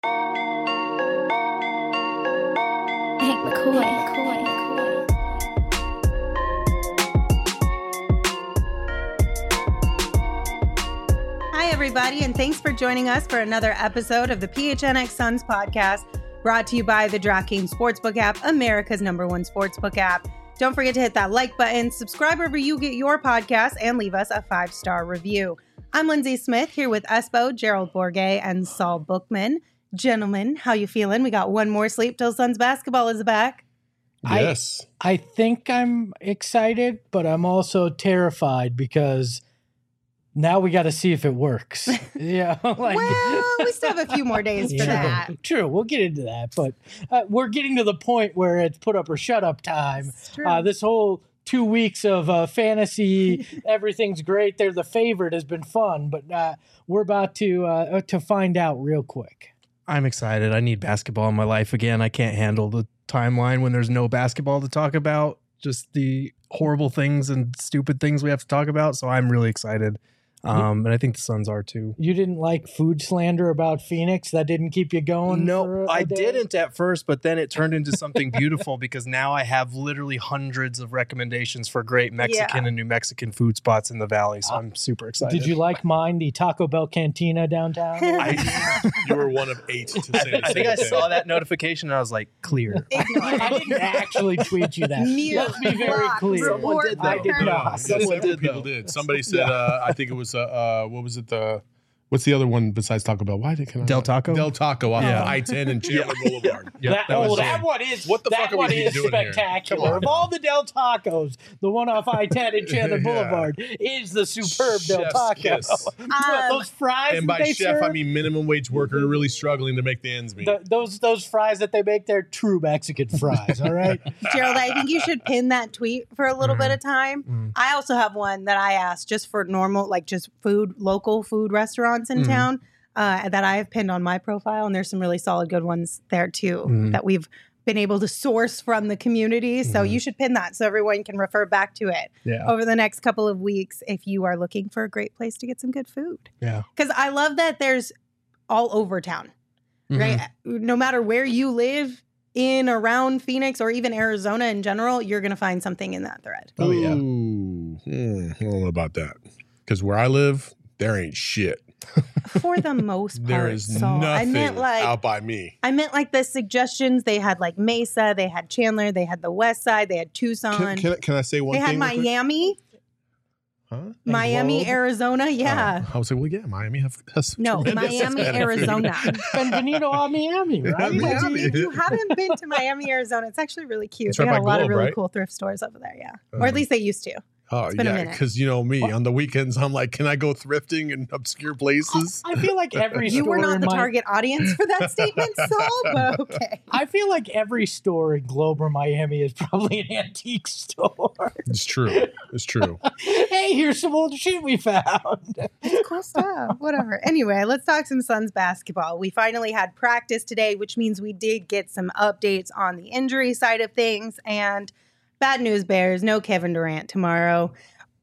Hank McCoy. Hi, everybody, and thanks for joining us for another episode of the PHNX Suns podcast, brought to you by the DraftKings Sportsbook app, America's #1 sportsbook app. Don't forget to hit that like button, subscribe wherever you get your podcast, and leave us a 5-star review. I'm Lindsay Smith here with Espo, Gerald Bourget, and Saul Bookman. Gentlemen, how you feeling? We got one more sleep till Suns basketball is back. Yes. I think I'm excited, but I'm also terrified because now we got to see if it works. Yeah. Well, we still have a few more days for that. True. We'll get into that. But we're getting to the point where it's put up or shut up time. This whole 2 weeks of fantasy, everything's great. They're the favorite has been fun, but we're about to find out real quick. I'm excited. I need basketball in my life again. I can't handle the timeline when there's no basketball to talk about, just the horrible things and stupid things we have to talk about. So I'm really excited. And I think the Suns are too. You didn't like food slander about Phoenix? That didn't keep you going? No, I didn't at first, but then it turned into something beautiful because now I have literally hundreds of recommendations for great Mexican and New Mexican food spots in the Valley. So I'm super excited. Did you like mine, the Taco Bell Cantina downtown? You were one of 8 to say I think I saw that notification and I was like, clear. I didn't actually tweet you that. Let's be very clear. Someone did, though. I did not. Several people did. Somebody said, I think it was, what was it? What's the other one besides Taco Bell? Del Taco? Del Taco off of I-10 and Chandler Boulevard. Yep, that one is. What the fuck are we doing spectacular. here? Of all the Del Tacos, the one off I-10 and Chandler Boulevard is the superb Del Taco. Those fries. And by chef, I mean minimum wage worker really struggling to make the ends meet. Those fries that they make, they're true Mexican fries. All right, Gerald, I think you should pin that tweet for a little bit of time. I also have one that I asked just for normal, like just local food restaurants in town that I have pinned on my profile, and there's some really solid good ones there too that we've been able to source from the community. So you should pin that so everyone can refer back to it over the next couple of weeks if you are looking for a great place to get some good food. Yeah, because I love that there's all over town, right? No matter where you live in, around Phoenix, or even Arizona in general, you're going to find something in that thread. Oh yeah. I don't know about that, because where I live, there ain't shit. For the most part. There is nothing out by me. I meant like the suggestions. They had like Mesa, they had Chandler, they had the West Side, they had Tucson. Can I say one thing? They had Miami. Huh? Miami, Arizona, yeah. I would say, well, yeah, Miami has Miami, Arizona. Benvenido a Miami, right? If you haven't been to Miami, Arizona, it's actually really cute. It's they right got a by lot Globe, of really right? cool thrift stores over there, yeah. Or at least they used to. Oh, yeah, because you know me. On the weekends, I'm like, can I go thrifting in obscure places? I feel like every store You were not the target audience for that statement, Saul, but okay. I feel like every store in Globe or Miami is probably an antique store. It's true. It's true. Hey, here's some old shit we found. It's cool stuff. Whatever. Anyway, let's talk some Suns basketball. We finally had practice today, which means we did get some updates on the injury side of things. And bad news, Bears, no Kevin Durant tomorrow.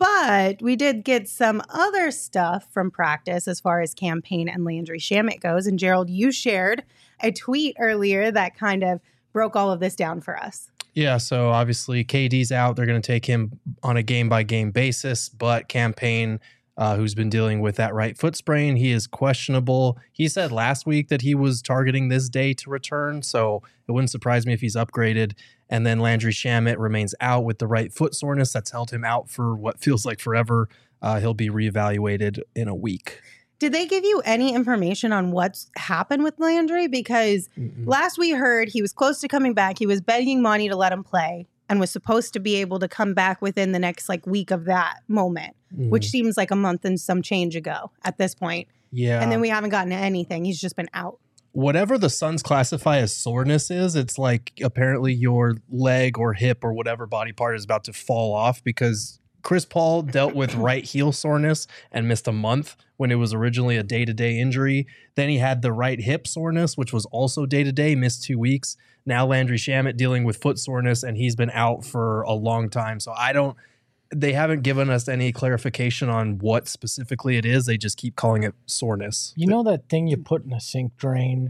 But we did get some other stuff from practice as far as Cam Payne and Landry Shamet goes. And Gerald, you shared a tweet earlier that kind of broke all of this down for us. Yeah, so obviously KD's out. They're going to take him on a game-by-game basis, but Cam Payne, who's been dealing with that right foot sprain, he is questionable. He said last week that he was targeting this day to return, so it wouldn't surprise me if he's upgraded. And then Landry Shamet remains out with the right foot soreness that's held him out for what feels like forever. He'll be reevaluated in a week. Did they give you any information on what's happened with Landry? Because last we heard, he was close to coming back. He was begging Monty to let him play and was supposed to be able to come back within the next week of that moment, which seems like a month and some change ago at this point. Yeah. And then we haven't gotten anything. He's just been out. Whatever the Suns classify as soreness is, it's like apparently your leg or hip or whatever body part is about to fall off, because Chris Paul dealt with right heel soreness and missed a month when it was originally a day-to-day injury. Then he had the right hip soreness, which was also day-to-day, missed 2 weeks. Now Landry Shamet dealing with foot soreness, and he's been out for a long time. So they haven't given us any clarification on what specifically it is. They just keep calling it soreness. You know that thing you put in a sink drain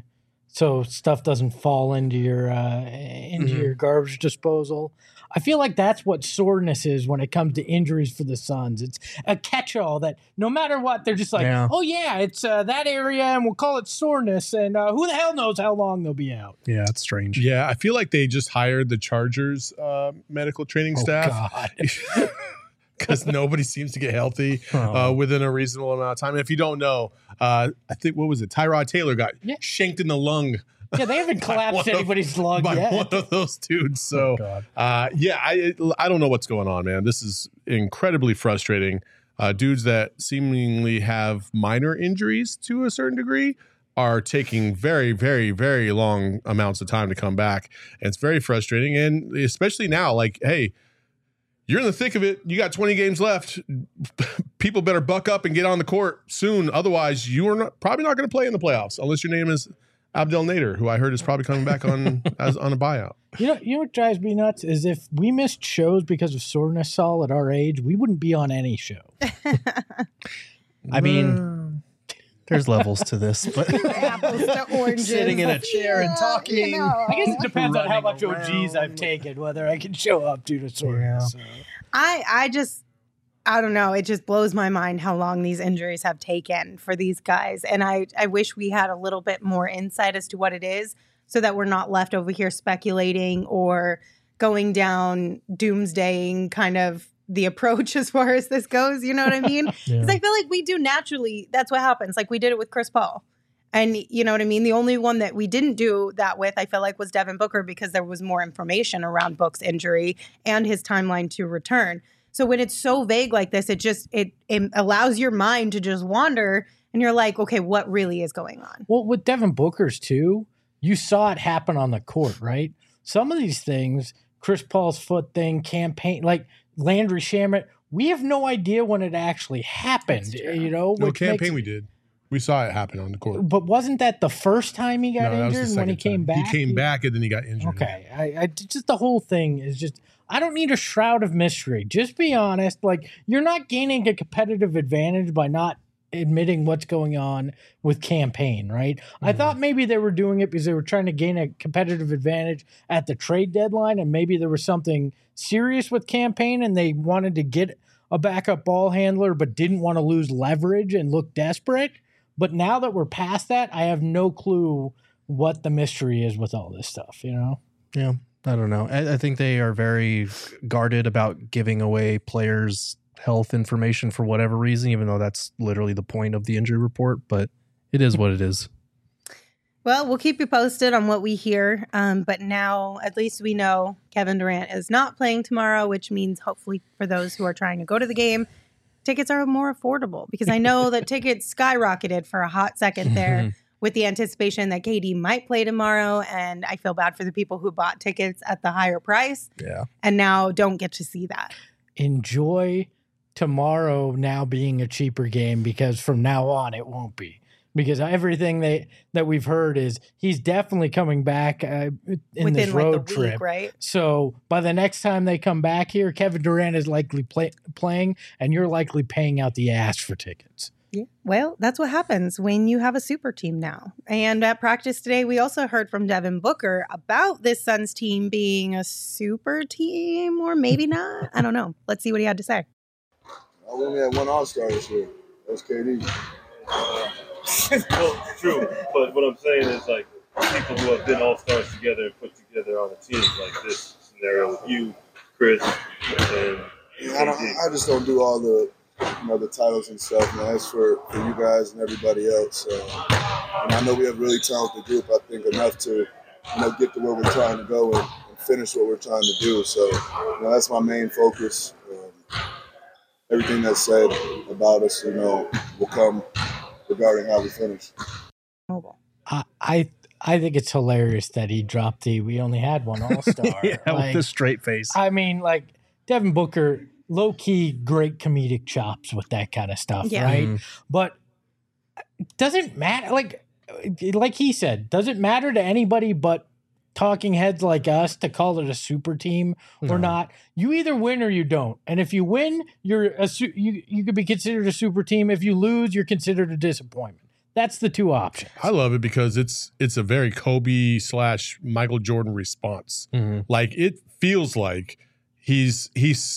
so stuff doesn't fall into your garbage disposal. I feel like that's what soreness is when it comes to injuries for the Suns. It's a catch-all that no matter what, they're just like, oh yeah, it's that area, and we'll call it soreness, and who the hell knows how long they'll be out. Yeah, it's strange. Yeah, I feel like they just hired the Chargers medical training staff. God. Because nobody seems to get healthy within a reasonable amount of time. And if you don't know, I think, what was it? Tyrod Taylor got shanked in the lung. Yeah, they haven't collapsed anybody's lung by yet. one of those dudes. So, I don't know what's going on, man. This is incredibly frustrating. Dudes that seemingly have minor injuries to a certain degree are taking very, very, very long amounts of time to come back. And it's very frustrating. And especially now, like, hey, you're in the thick of it. You got 20 games left. People better buck up and get on the court soon. Otherwise, you are probably not going to play in the playoffs unless your name is Abdel Nader, who I heard is probably coming back on on a buyout. You know what drives me nuts is if we missed shows because of soreness, Saul, at our age, we wouldn't be on any show. I mean, there's levels to this, but apples to oranges. Sitting in a chair and talking. I guess it depends on how much Running OGs I've taken, whether I can show up due to soreness. I don't know. It just blows my mind how long these injuries have taken for these guys. And I wish we had a little bit more insight as to what it is so that we're not left over here speculating or going down doomsdaying kind of the approach as far as this goes. You know what I mean? Because I feel like we do naturally. That's what happens. Like we did it with Chris Paul. And you know what I mean? The only one that we didn't do that with, I feel like, was Devin Booker because there was more information around Book's injury and his timeline to return. So when it's so vague like this, it allows your mind to just wander and you're like, okay, what really is going on? Well, with Devin Booker's too, you saw it happen on the court, right? Some of these things, Chris Paul's foot thing, campaign, like Landry Shamet, we have no idea when it actually happened, you know? No campaign we did. We saw it happen on the court. But wasn't that the first time he got injured when he came back? He came back and then he got injured. Okay. I just the whole thing is just, I don't need a shroud of mystery. Just be honest. Like, you're not gaining a competitive advantage by not admitting what's going on with campaign, right? Mm-hmm. I thought maybe they were doing it because they were trying to gain a competitive advantage at the trade deadline, and maybe there was something serious with campaign and they wanted to get a backup ball handler but didn't want to lose leverage and look desperate. But now that we're past that, I have no clue what the mystery is with all this stuff, you know? Yeah, I don't know. I think they are very guarded about giving away players' health information for whatever reason, even though that's literally the point of the injury report. But it is what it is. Well, we'll keep you posted on what we hear. But now at least we know Kevin Durant is not playing tomorrow, which means hopefully for those who are trying to go to the game, tickets are more affordable, because I know that tickets skyrocketed for a hot second there with the anticipation that KD might play tomorrow. And I feel bad for the people who bought tickets at the higher price and now don't get to see that. Enjoy tomorrow now being a cheaper game, because from now on it won't be. Because everything that we've heard is he's definitely coming back within this road trip. Week, right? So by the next time they come back here, Kevin Durant is likely playing, and you're likely paying out the ass for tickets. Yeah. Well, that's what happens when you have a super team now. And at practice today, we also heard from Devin Booker about this Suns team being a super team, or maybe not. I don't know. Let's see what he had to say. I only had one All-Star this year. That's KD. Well, true, but what I'm saying is, like, people who have been all-stars together and put together on a team like this scenario with you, Chris, and I just don't do all the the titles and stuff, man. That's for you guys and everybody else. And I know we have a really talented group. I think enough to get to where we're trying to go and finish what we're trying to do. So that's my main focus. Everything that's said about us, will come regarding how we finish. I think it's hilarious that he dropped we only had one All-Star. With a straight face. I mean, like, Devin Booker, low-key great comedic chops with that kind of stuff, right? Mm. But it doesn't matter. Like he said, doesn't matter to anybody but talking heads like us to call it a super team or not. You either win or you don't. And if you win, you could be considered a super team. If you lose, you're considered a disappointment. That's the two options. I love it because it's a very Kobe/Michael Jordan response. Mm-hmm. Like it feels like he's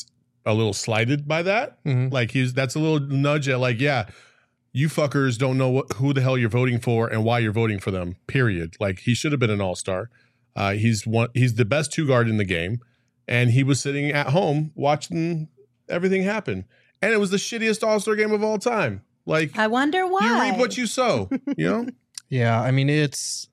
a little slighted by that. Mm-hmm. Like that's a little nudge at like, yeah, you fuckers don't know who the hell you're voting for and why you're voting for them. Period. Like he should have been an all-star. He's the best two guard in the game, and he was sitting at home watching everything happen, and it was the shittiest all-star game of all time. Like I wonder why. you reap what you sow. You know. Yeah, I mean it's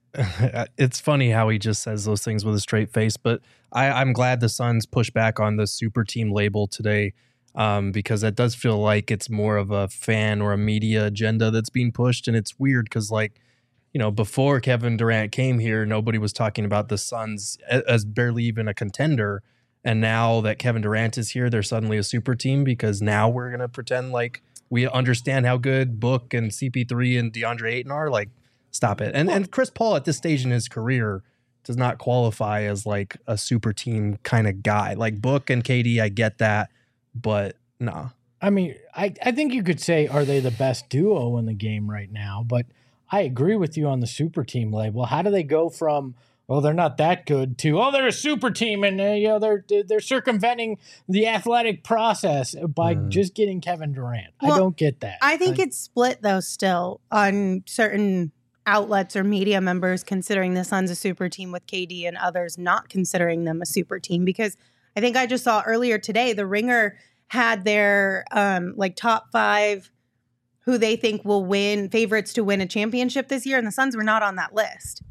funny how he just says those things with a straight face, but I'm glad the Suns push back on the super team label today, because that does feel like it's more of a fan or a media agenda that's being pushed, and it's weird because like, you know, before Kevin Durant came here, nobody was talking about the Suns as barely even a contender, and now that Kevin Durant is here, they're suddenly a super team because now we're gonna pretend like we understand how good Book and CP3 and DeAndre Ayton are. Like, stop it. And Chris Paul at this stage in his career does not qualify as like a super team kind of guy. Like Book and KD, I get that, but nah. I mean, I think you could say, are they the best duo in the game right now? But I agree with you on the super team label. How do they go from, well, they're not that good to, oh, they're a super team and they're circumventing the athletic process by just getting Kevin Durant? Well, I don't get that. I think it's split though still on certain outlets or media members considering the Suns a super team with KD and others not considering them a super team, because I think I just saw earlier today the Ringer had their like top 5 who they think will win, favorites to win a championship this year, and the Suns were not on that list.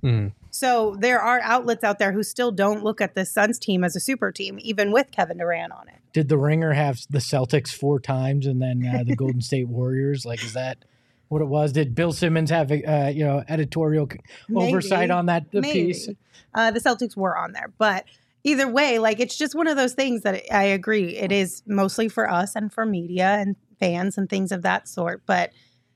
So there are outlets out there who still don't look at the Suns team as a super team, even with Kevin Durant on it. Did the Ringer have the Celtics 4 times and then the Golden State Warriors? Like, is that what it was? Did Bill Simmons have editorial oversight on that piece? The Celtics were on there, but either way, like it's just one of those things that I agree. It is mostly for us and for media and fans and things of that sort, but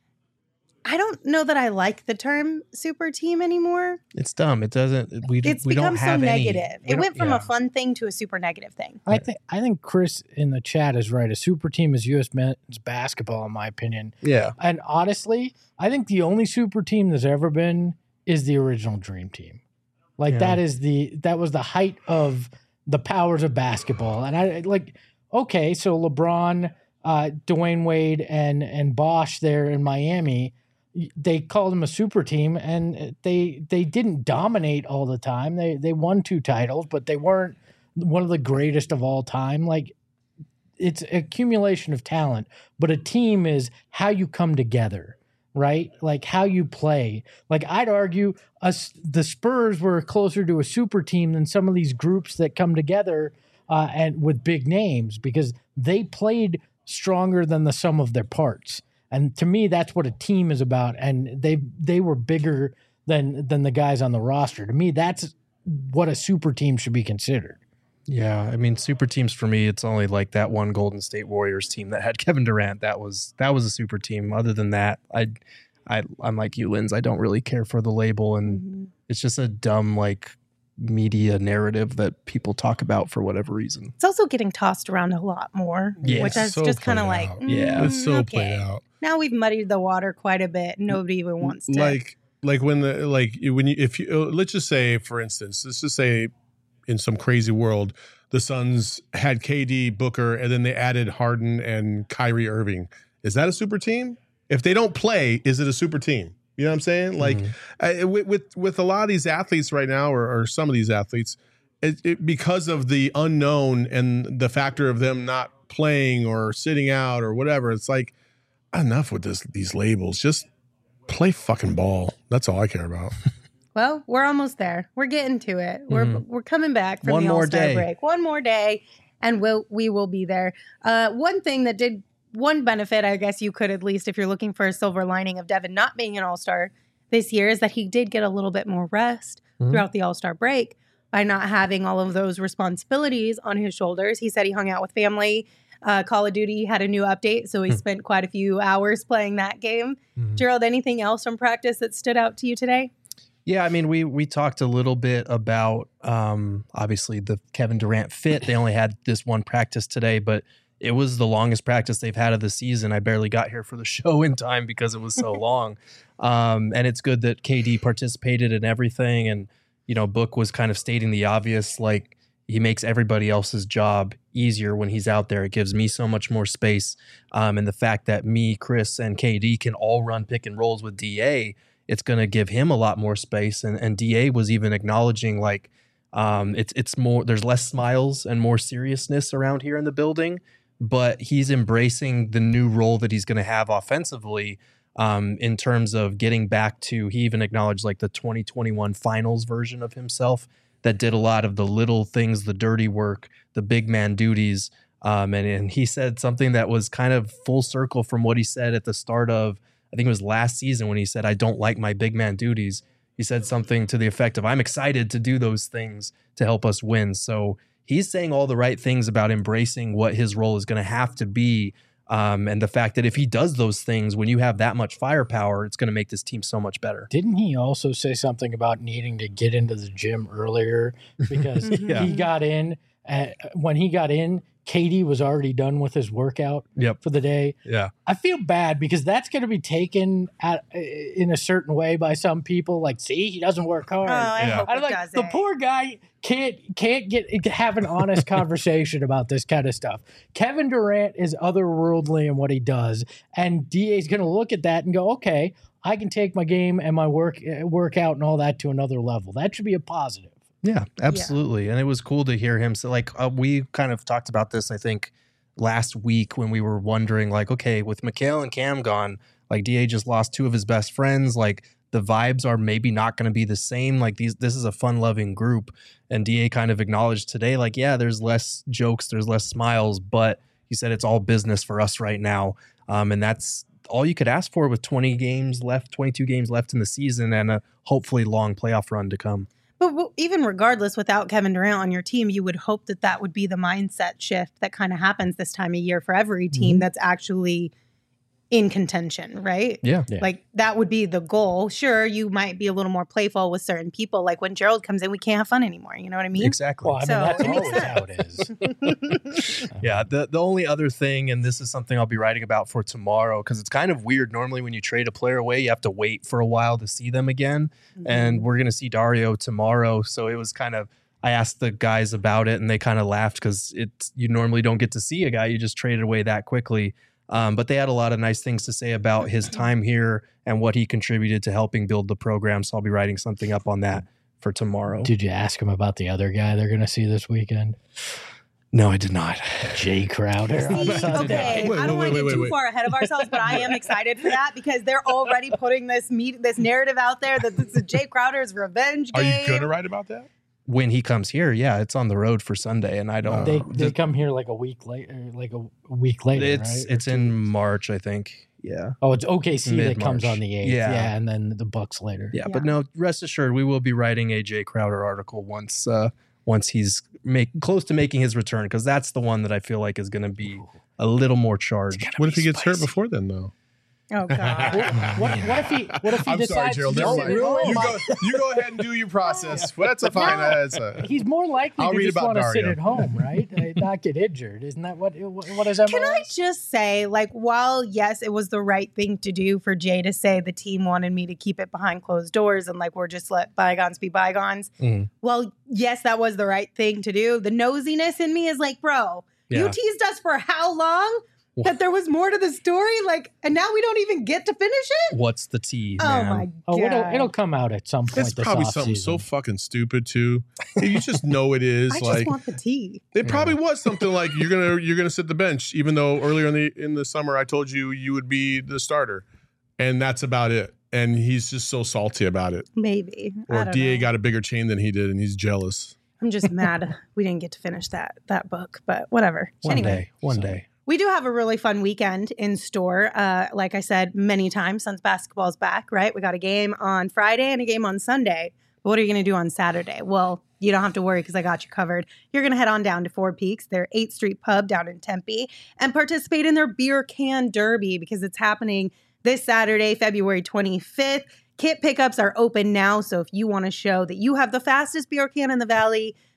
I don't know that I like the term super team anymore. It's dumb. It doesn't. It's we become don't have so any, negative. It went from a fun thing to a super negative thing. I think Chris in the chat is right. A super team is U.S. men's basketball, in my opinion. Yeah. And honestly, I think the only super team there's ever been is the original Dream Team. Like that was the height of the powers of basketball. And I like, okay, so LeBron, Dwayne Wade, and Bosh there in Miami, they called them a super team, and they didn't dominate all the time. They won 2 titles, but they weren't one of the greatest of all time. Like, it's accumulation of talent, but a team is how you come together, right? Like how you play. Like I'd argue the Spurs were closer to a super team than some of these groups that come together and with big names, because they played stronger than the sum of their parts. And to me, that's what a team is about. And they were bigger than the guys on the roster. To me, that's what a super team should be considered. Yeah, I mean, super teams for me, it's only like that one Golden State Warriors team that had Kevin Durant. That was a super team. Other than that, I'm like you, Linz. I don't really care for the label, and it's just a dumb like media narrative that people talk about for whatever reason. It's also getting tossed around a lot more, which is so just kind of like, it's so played out. Now we've muddied the water quite a bit. Nobody even wants to if you let's just say, for instance, let's just say in some crazy world, the Suns had KD, Booker, and then they added Harden and Kyrie Irving. Is that a super team? If they don't play, is it a super team? You know what I'm saying? Like with a lot of these athletes right now, or some of these athletes, because of the unknown and the factor of them not playing or sitting out or whatever, it's like, enough with these labels. Just play fucking ball. That's all I care about. Well, we're almost there. We're getting to it. We're coming back from the All-Star break. One more day, and we will be there. One benefit, I guess you could at least, if you're looking for a silver lining of Devin not being an All-Star this year, is that he did get a little bit more rest throughout the All-Star break by not having all of those responsibilities on his shoulders. He said he hung out with family. Call of Duty had a new update, so he spent quite a few hours playing that game. Gerald, anything else from practice that stood out to you today? Yeah, I mean, we talked a little bit about obviously the Kevin Durant fit. They only had this one practice today, but it was the longest practice they've had of the season. I barely got here for the show in time because it was so long. And it's good that KD participated in everything. And, Book was kind of stating the obvious, like, he makes everybody else's job easier when he's out there. It gives me so much more space. And the fact that me, Chris, and KD can all run pick and rolls with DA, it's going to give him a lot more space. And DA was even acknowledging, like, it's more, there's less smiles and more seriousness around here in the building, but he's embracing the new role that he's going to have offensively, in terms of getting back to, he even acknowledged like the 2021 finals version of himself that did a lot of the little things, the dirty work, the big man duties. And he said something that was kind of full circle from what he said at the start of, I think it was last season, when he said, I don't like my big man duties. He said something to the effect of, I'm excited to do those things to help us win. So he's saying all the right things about embracing what his role is going to have to be. And the fact that if he does those things, when you have that much firepower, it's going to make this team so much better. Didn't he also say something about needing to get into the gym earlier? Because he got in, when he got in, KD was already done with his workout for the day. Yeah. I feel bad because that's going to be taken in a certain way by some people. Like, see, he doesn't work hard. Oh, I hope it doesn't. The poor guy can't have an honest conversation about this kind of stuff. Kevin Durant is otherworldly in what he does, and DA is going to look at that and go, okay, I can take my game and my workout and all that to another level. That should be a positive. Yeah, absolutely. And it was cool to hear him. So like we kind of talked about this, I think, last week when we were wondering, like, okay, with Mikal and Cam gone, like DA just lost two of his best friends. Like the vibes are maybe not going to be the same. Like this is a fun loving group. And DA kind of acknowledged today, like, yeah, there's less jokes, there's less smiles, but he said it's all business for us right now. And that's all you could ask for with 22 games left in the season and a hopefully long playoff run to come. But even regardless, without Kevin Durant on your team, you would hope that that would be the mindset shift that kind of happens this time of year for every team that's actually in contention, right? Yeah. Like that would be the goal. Sure, you might be a little more playful with certain people. Like when Gerald comes in, we can't have fun anymore. You know what I mean? Exactly. Well, I mean, that's always how it is. Yeah. The only other thing, and this is something I'll be writing about for tomorrow, because it's kind of weird. Normally when you trade a player away, you have to wait for a while to see them again. And we're going to see Dario tomorrow. So it was kind of, I asked the guys about it and they kind of laughed because you normally don't get to see a guy you just traded away that quickly. But they had a lot of nice things to say about his time here and what he contributed to helping build the program. So I'll be writing something up on that for tomorrow. Did you ask him about the other guy they're going to see this weekend? No, I did not. Jay Crowder. Okay, I don't want to get too far ahead of ourselves, but I am excited for that because they're already putting this narrative out there that this is Jay Crowder's revenge game. Are you going to write about that? When he comes here, yeah, it's on the road for Sunday, and I don't. They come here like a week later, right? It's in March, I think. Yeah. Oh, it's OKC Mid-March. that comes on the 8th. Yeah, and then the Bucks later. Yeah, but no, rest assured, we will be writing a Jay Crowder article once he's close to making his return, because that's the one that I feel like is going to be a little more charged. What if he gets hurt before then, though? Oh God! What if he I'm decides sorry, Gerald. to Never sit mind. at home? You go ahead and do your process. Well, that's a fine. He's more likely I'll to read just about want to sit Dario. at home, right? Not get injured. Isn't that what does that? Can I just say, like, while yes, it was the right thing to do for Jay to say the team wanted me to keep it behind closed doors and like we're just let bygones be bygones. Well, yes, that was the right thing to do. The nosiness in me is like, bro, you teased us for how long? That there was more to the story, like, and now we don't even get to finish it. What's the tea? Oh man? my God! It'll come out at some point. It's probably something so fucking stupid too. You just know it is. I like just want the tea. it probably was something like you're gonna sit the bench, even though earlier in the summer I told you would be the starter, and that's about it. And he's just so salty about it. Maybe. Or DA got a bigger chain than he did, and he's jealous. I'm just mad we didn't get to finish that book, but whatever. One day. We do have a really fun weekend in store. Like I said many times, Suns basketball's back, right? We got a game on Friday and a game on Sunday. But what are you going to do on Saturday? Well, you don't have to worry because I got you covered. You're going to head on down to Four Peaks, their 8th Street pub down in Tempe, and participate in their beer can derby because it's happening this Saturday, February 25th. Kit pickups are open now, so if you want to show that you have the fastest beer can in the valley,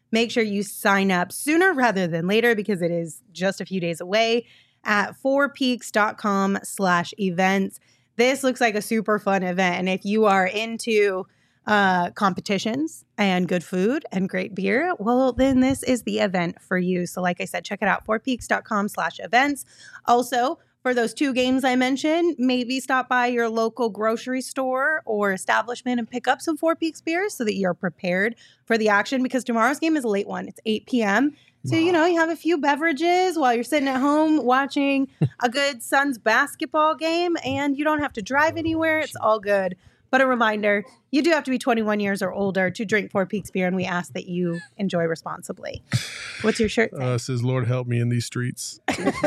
Make sure you sign up sooner rather than later because it is just a few days away at fourpeaks.com/events. This looks like a super fun event. And if you are into competitions and good food and great beer, well, then this is the event for you. So like I said, check it out, fourpeaks.com/events. Also, for those 2 games I mentioned, maybe stop by your local grocery store or establishment and pick up some Four Peaks beers so that you're prepared for the action because tomorrow's game is a late one. It's 8 p.m. So, you have a few beverages while you're sitting at home watching a good Suns basketball game, and you don't have to drive anywhere. It's all good. But a reminder, you do have to be 21 years or older to drink Four Peaks beer, and we ask that you enjoy responsibly. What's your shirt say? It says, Lord help me in these streets.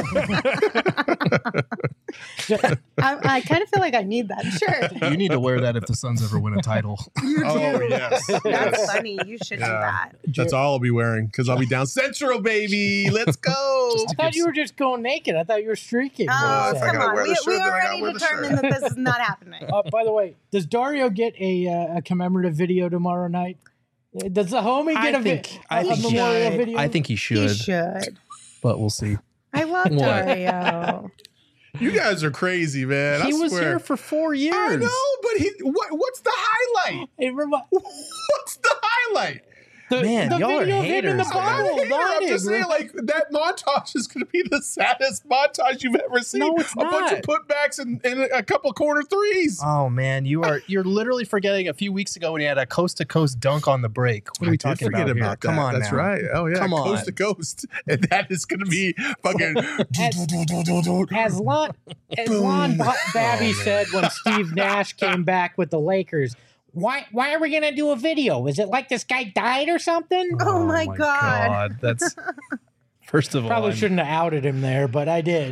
I kind of feel like I need that shirt. You need to wear that if the Suns ever win a title. You do. Oh, yes. That's funny. You should do that. That's all I'll be wearing because I'll be down Central, baby. Let's go. I thought you were just going naked. I thought you were streaking. Oh, if I come gotta on. wear the shirt, We then I gotta already wear the determined shirt. that this is not happening. By the way, does Dario get a commemorative video tomorrow night? Does the homie get a memorial video? I think he should. He should. But we'll see. I love What? Dario. You guys are crazy, man. He I was swear. here for 4 years. I know, but what's the highlight? What's the highlight? Man, y'all are video of him in the haters, I'm bottle. not a hater. I'm just saying, like, that montage is going to be the saddest montage you've ever seen. No, it's a bunch of not. putbacks and a couple corner threes. Oh man, you're literally forgetting a few weeks ago when he had a coast to coast dunk on the break. What are we talking about here? that. Come on, That's now. right. Oh yeah, Come coast on. to coast, and that is going to be fucking. As Lon Babby said when Steve Nash came back with the Lakers, why are we gonna do a video? Is it like this guy died or something? Oh my God. That's first of all, Probably shouldn't have outed him there, but I did.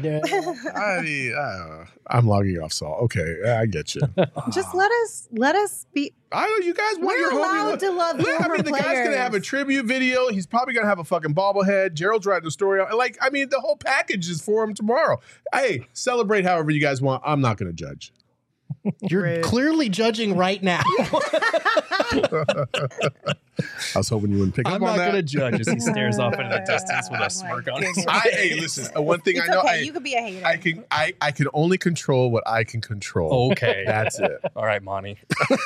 I'm logging off, Saul. Okay, I get you. Just let us be. I know you guys want We're your homie. allowed to love I former mean, the guy's players. gonna have a tribute video. He's probably gonna have a fucking bobblehead. Gerald's writing the story. Like, I mean, the whole package is for him tomorrow. Hey, celebrate however you guys want. I'm not gonna judge. you're Rude. clearly judging right now. I was hoping you wouldn't pick I'm up not on going to that. judge as he stares off into the distance with Oh, a smirk my on his goodness. face. Hey, listen. One thing It's I know, okay. You could be a hater. I can only control what I can control. Okay, That's it. All right, Monty.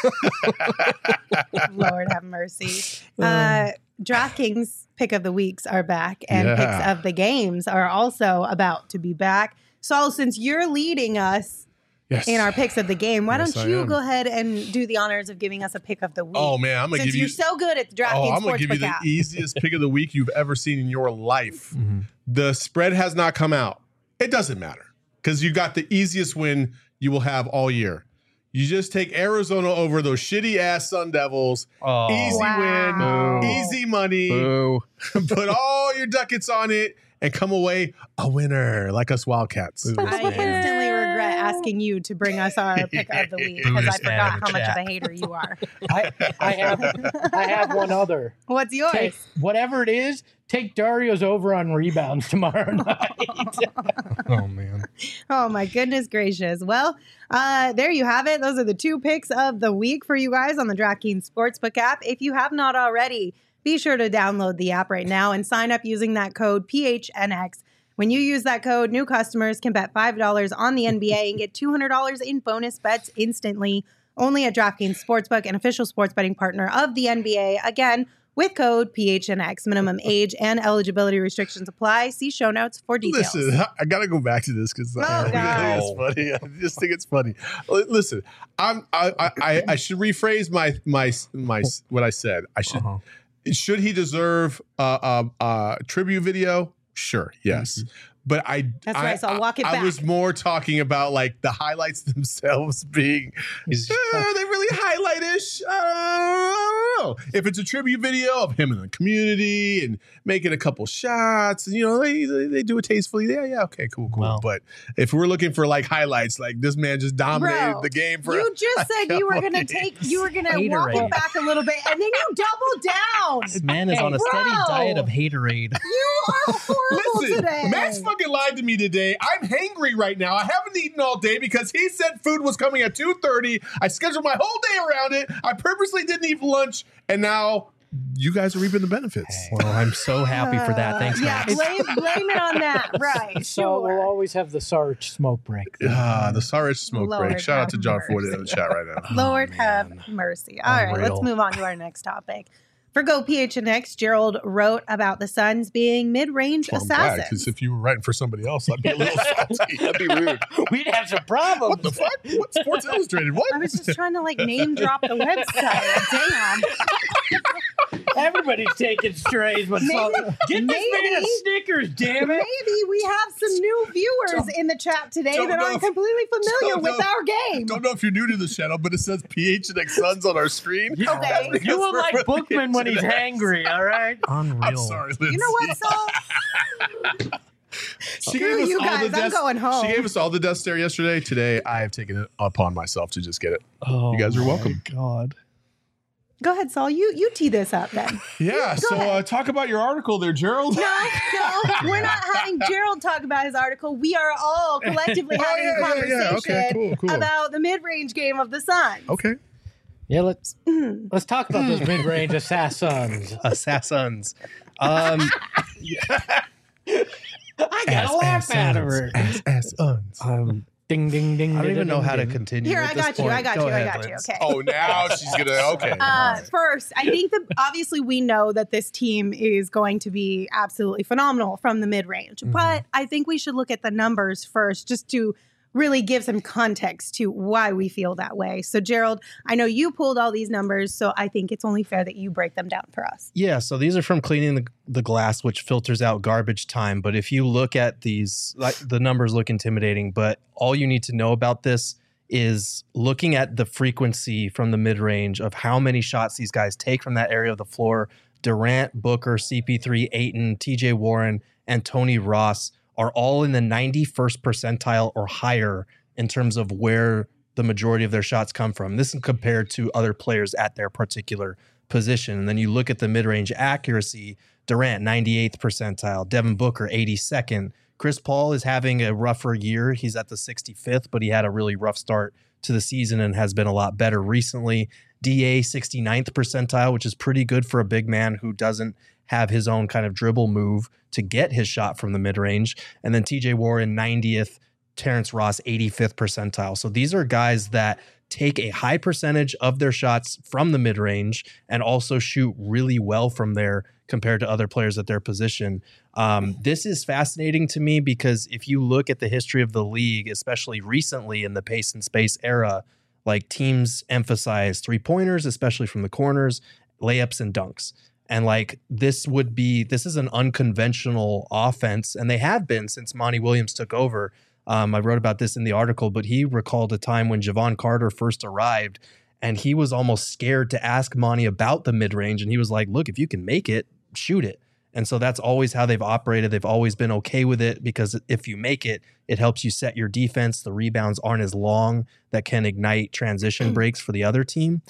Lord have mercy. DraftKings pick of the weeks are back, and Yeah. picks of the games are also about to be back. Saul, since you're leading us Yes. in our picks of the game, why Yes, don't I you am. go ahead and do the honors of giving us a pick of the week? Oh man, I'm gonna Since give you. you're so good at the DraftKings I'm gonna give you Sportsbook the app. easiest pick of the week you've ever seen in your life. The spread has not come out. It doesn't matter because you got the easiest win you will have all year. You just take Arizona over those shitty ass Sun Devils. Oh, Easy Wow. win, easy money. boo. Put all your ducats on it and come away a winner like us Wildcats. I instantly regret asking you to bring us our pick of the week because I Biggest fan forgot of the how much chat. of a hater you are. I have one other. What's yours? Take whatever it is. Take Dario's over on rebounds tomorrow night. Oh man. Oh my goodness gracious. Well, there you have it. Those are the 2 picks of the week for you guys on the DraftKings Sportsbook app. If you have not already, be sure to download the app right now and sign up using that code PHNX. When you use that code, new customers can bet $5 on the NBA and get $200 in bonus bets instantly. Only at DraftKings Sportsbook, an official sports betting partner of the NBA. Again, with code PHNX. Minimum age and eligibility restrictions apply. See show notes for details. Listen, I gotta go back to this because Oh, God. it's funny. I just think it's funny. Listen, I should rephrase my what I said. I should. Should he deserve a tribute video? Sure, yes. But That's right, so I'll walk it I back. was more talking about like the highlights themselves being are they really highlight-ish? I don't know. If it's a tribute video of him in the community and making a couple shots, and they do it tastefully. Yeah, okay, cool. Wow. But if we're looking for like highlights, like this man just dominated Bro, the game for you just said you were gonna walk it back a little bit, and then you doubled down. This man is on a steady Bro. diet of haterade. You are horrible Listen, today. Max fucking lied to me today. I'm hangry right now. I haven't eaten all day because he said food was coming at 2:30. I scheduled my whole day around it. I purposely didn't eat lunch, and now you guys are reaping the benefits. Well, I'm so happy for that. Thanks, Yeah, Max. blame it on that. Right. So we'll always have the Sarich smoke break. The Sarich smoke Lord break. Shout out to have John Ford in mercy. the chat right now. Lord man. have mercy. All right, Unreal. let's move on to our next topic. For Go PHNX, Gerald wrote about the Suns being mid-range Well, I'm glad, assassins. because if you were writing for somebody else, I'd be a little salty. That'd be rude. We'd have some problems. What the fuck? What Sports Illustrated? What? I was just trying to name drop the website. Damn. Everybody's taking strays. But Maybe- get this man a maybe- Snickers, damn it. Maybe we have some new viewers in the chat today don't that know aren't if- completely familiar don't with know- our game. Don't know if you're new to the channel, but it says PHNX Suns on our screen. Okay. That's because You will we're like with Bookman when he's PHNX. hangry, all right? Unreal. I'm sorry, Lindsay. You know what, Saul? She Screw gave us you all guys, the I'm death- going home. She gave us all the death stare yesterday. Today, I have taken it upon myself to just get it. Oh, You guys are welcome. my God. Go ahead, Saul. You tee this up then. Yeah, Go so ahead. talk about your article there, Gerald. No, we're not having Gerald talk about his article. We are all collectively Oh, having a yeah. conversation Okay, cool. about the mid-range game of the Suns. Okay. Yeah, let's talk about those mid-range assassins. Assassins. I got a laugh out of her. Uns. Ding, ding, ding. I don't ding, even know ding, how to ding. continue. Here, at I this got you. point. I got Go you. I ahead, got you. Lance. Okay. Oh, now she's gonna. Okay. First, I think that obviously we know that this team is going to be absolutely phenomenal from the mid-range, but I think we should look at the numbers first just to really give some context to why we feel that way. So, Gerald, I know you pulled all these numbers, so I think it's only fair that you break them down for us. Yeah, so these are from cleaning the glass, which filters out garbage time. But if you look at these, the numbers look intimidating, but all you need to know about this is looking at the frequency from the mid-range of how many shots these guys take from that area of the floor. Durant, Booker, CP3, Ayton, TJ Warren, and Tony Ross are all in the 91st percentile or higher in terms of where the majority of their shots come from. This is compared to other players at their particular position. And then you look at the mid-range accuracy, Durant, 98th percentile, Devin Booker, 82nd. Chris Paul is having a rougher year. He's at the 65th, but he had a really rough start to the season and has been a lot better recently. DA, 69th percentile, which is pretty good for a big man who doesn't have his own kind of dribble move to get his shot from the mid-range. And then TJ Warren, 90th, Terrence Ross, 85th percentile. So these are guys that take a high percentage of their shots from the mid-range and also shoot really well from there compared to other players at their position. This is fascinating to me because if you look at the history of the league, especially recently in the pace and space era, like teams emphasize three-pointers, especially from the corners, layups and dunks. And this is an unconventional offense, and they have been since Monty Williams took over. I wrote about this in the article, but he recalled a time when Javon Carter first arrived, and he was almost scared to ask Monty about the mid-range. And he was like, look, if you can make it, shoot it. And so that's always how they've operated. They've always been okay with it because if you make it, it helps you set your defense. The rebounds aren't as long that can ignite transition breaks for the other team.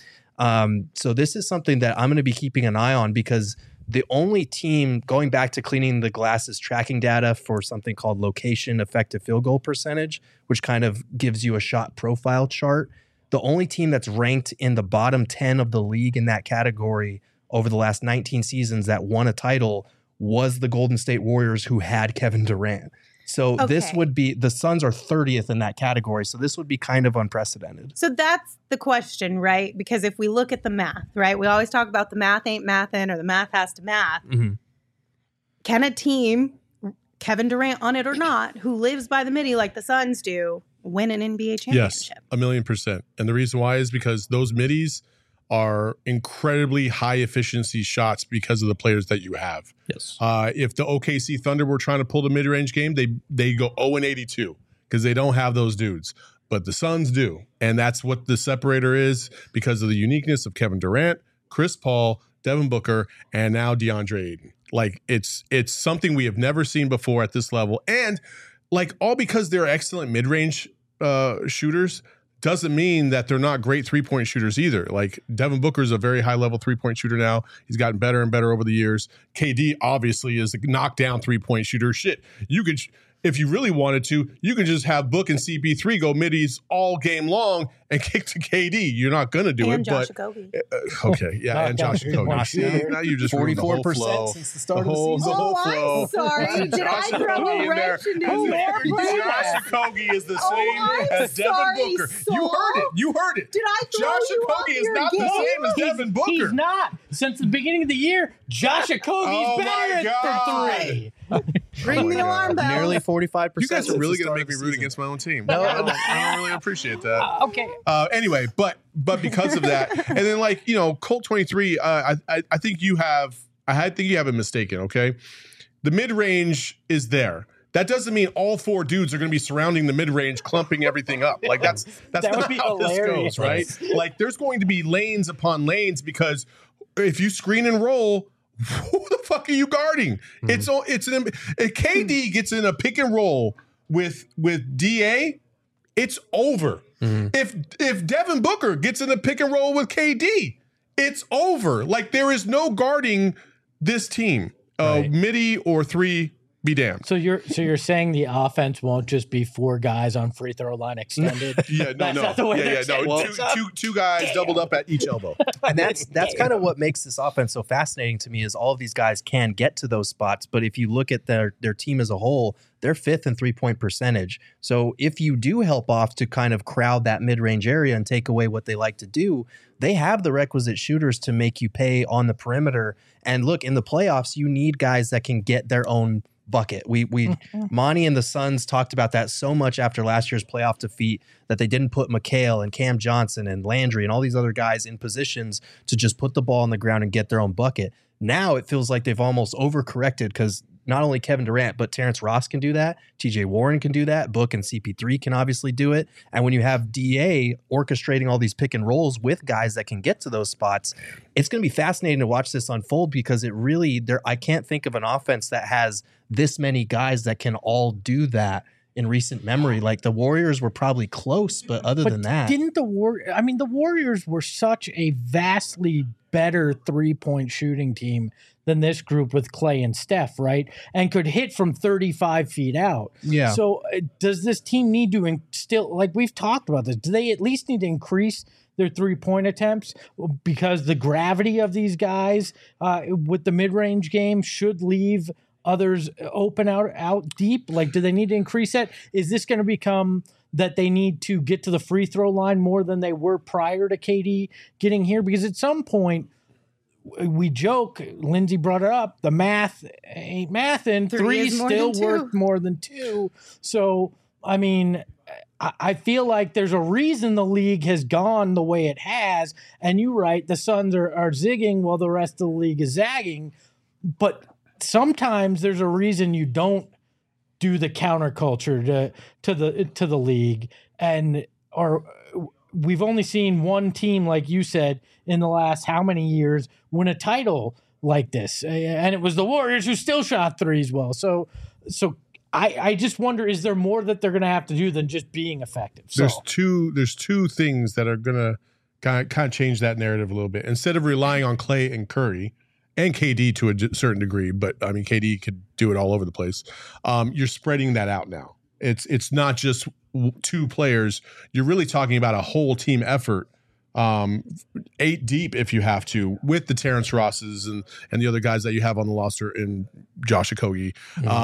So this is something that I'm going to be keeping an eye on because the only team, going back to cleaning the glasses tracking data for something called location effective field goal percentage, which kind of gives you a shot profile chart, the only team that's ranked in the bottom 10 of the league in that category over the last 19 seasons that won a title was the Golden State Warriors, who had Kevin Durant. So this would be, the Suns are 30th in that category. So this would be kind of unprecedented. So that's the question, right? Because if we look at the math, right? We always talk about the math ain't mathin' or the math has to math. Mm-hmm. Can a team, Kevin Durant on it or not, who lives by the midi like the Suns do, win an NBA championship? Yes, 1,000,000%. And the reason why is because those middies are incredibly high efficiency shots because of the players that you have. Yes. If the OKC Thunder were trying to pull the mid-range game, they go 0-82 because they don't have those dudes. But the Suns do. And that's what the separator is because of the uniqueness of Kevin Durant, Chris Paul, Devin Booker, and now DeAndre Ayton. It's something we have never seen before at this level. And all because they're excellent mid-range shooters doesn't mean that they're not great three-point shooters either. Devin Booker is a very high-level three-point shooter now. He's gotten better and better over the years. KD obviously is a knockdown three-point shooter. Shit, you could if you really wanted to, you can just have Book and CP3 go middies all game long and kick to KD. You're not going to do and it. Josh but Okogie. Okay, yeah, and Josh Okogie. Now you just ruined the whole 44% flow. since the start of the season. The whole Oh, flow. I'm sorry. Did I Josh throw Okogie a in there. wrench into your Josh plan? Okogie is the Oh, same I'm as Devin sorry, Booker. Saul. You heard it. You heard it. Did I throw Josh you off Okogie is your not the game? same as Devin Booker. He's not. Since the beginning of the year, Josh Okogie's Oh my better God. for three. Ring the alarm bell. Nearly 45%. You guys are since really the going to start make of me the root season. against my own team. No. I don't really appreciate that. Okay. Anyway, but because of that, and then like Colt 23, I think you have it mistaken. Okay, the mid range is there. That doesn't mean all 4 dudes are going to be surrounding the mid range, clumping everything up. Like that's That not would be how hilarious. this goes, right? Like there's going to be lanes upon lanes because if you screen and roll, who the fuck are you guarding? If KD gets in a pick and roll with DA, it's over. If Devin Booker gets in a pick and roll with KD, it's over. Like there is no guarding this team. Midi or 3, be damned. So you're saying the offense won't just be 4 guys on free throw line extended? Yeah, That's not the way they're setting things up. Two guys doubled up at each elbow. And that's kind of what makes this offense so fascinating to me is all of these guys can get to those spots. But if you look at their team as a whole, they're 5th in 3-point percentage. So if you do help off to kind of crowd that mid-range area and take away what they like to do, they have the requisite shooters to make you pay on the perimeter. And look, in the playoffs, you need guys that can get their own bucket. Monty and the Suns talked about that so much after last year's playoff defeat that they didn't put McHale and Cam Johnson and Landry and all these other guys in positions to just put the ball on the ground and get their own bucket. Now it feels like they've almost overcorrected because not only Kevin Durant, but Terrence Ross can do that. TJ Warren can do that. Book and CP3 can obviously do it. And when you have DA orchestrating all these pick and rolls with guys that can get to those spots, it's going to be fascinating to watch this unfold because it really, I can't think of an offense that has this many guys that can all do that in recent memory. Like the Warriors were probably close, but other than that. Didn't the Warriors were such a vastly better 3-point shooting team than this group with Clay and Steph, right? And could hit from 35 feet out. Yeah. So does this team need to still, like we've talked about this, do they at least need to increase their 3-point attempts because the gravity of these guys with the mid-range game should leave others open out deep? Like, do they need to increase that? Is this going to become that they need to get to the free throw line more than they were prior to KD getting here? Because at some point, we joke, Lindsay brought it up, the math ain't math, and 3 still worth more than 2. So, I mean, I feel like there's a reason the league has gone the way it has. And you're right, the Suns are zigging while the rest of the league is zagging. But sometimes there's a reason you don't do the counterculture to the league, or we've only seen one team, like you said, in the last how many years win a title like this, and it was the Warriors who still shot threes well. So I just wonder, is there more that they're going to have to do than just being effective? So, there's two things that are going to kind of change that narrative a little bit. Instead of relying on Clay and Curry and KD to a certain degree, but I mean KD could do it all over the place. You're spreading that out now. It's not just 2 players. You're really talking about a whole team effort, 8 deep if you have to, with the Terrence Rosses and the other guys that you have on the roster in Josh Okogie,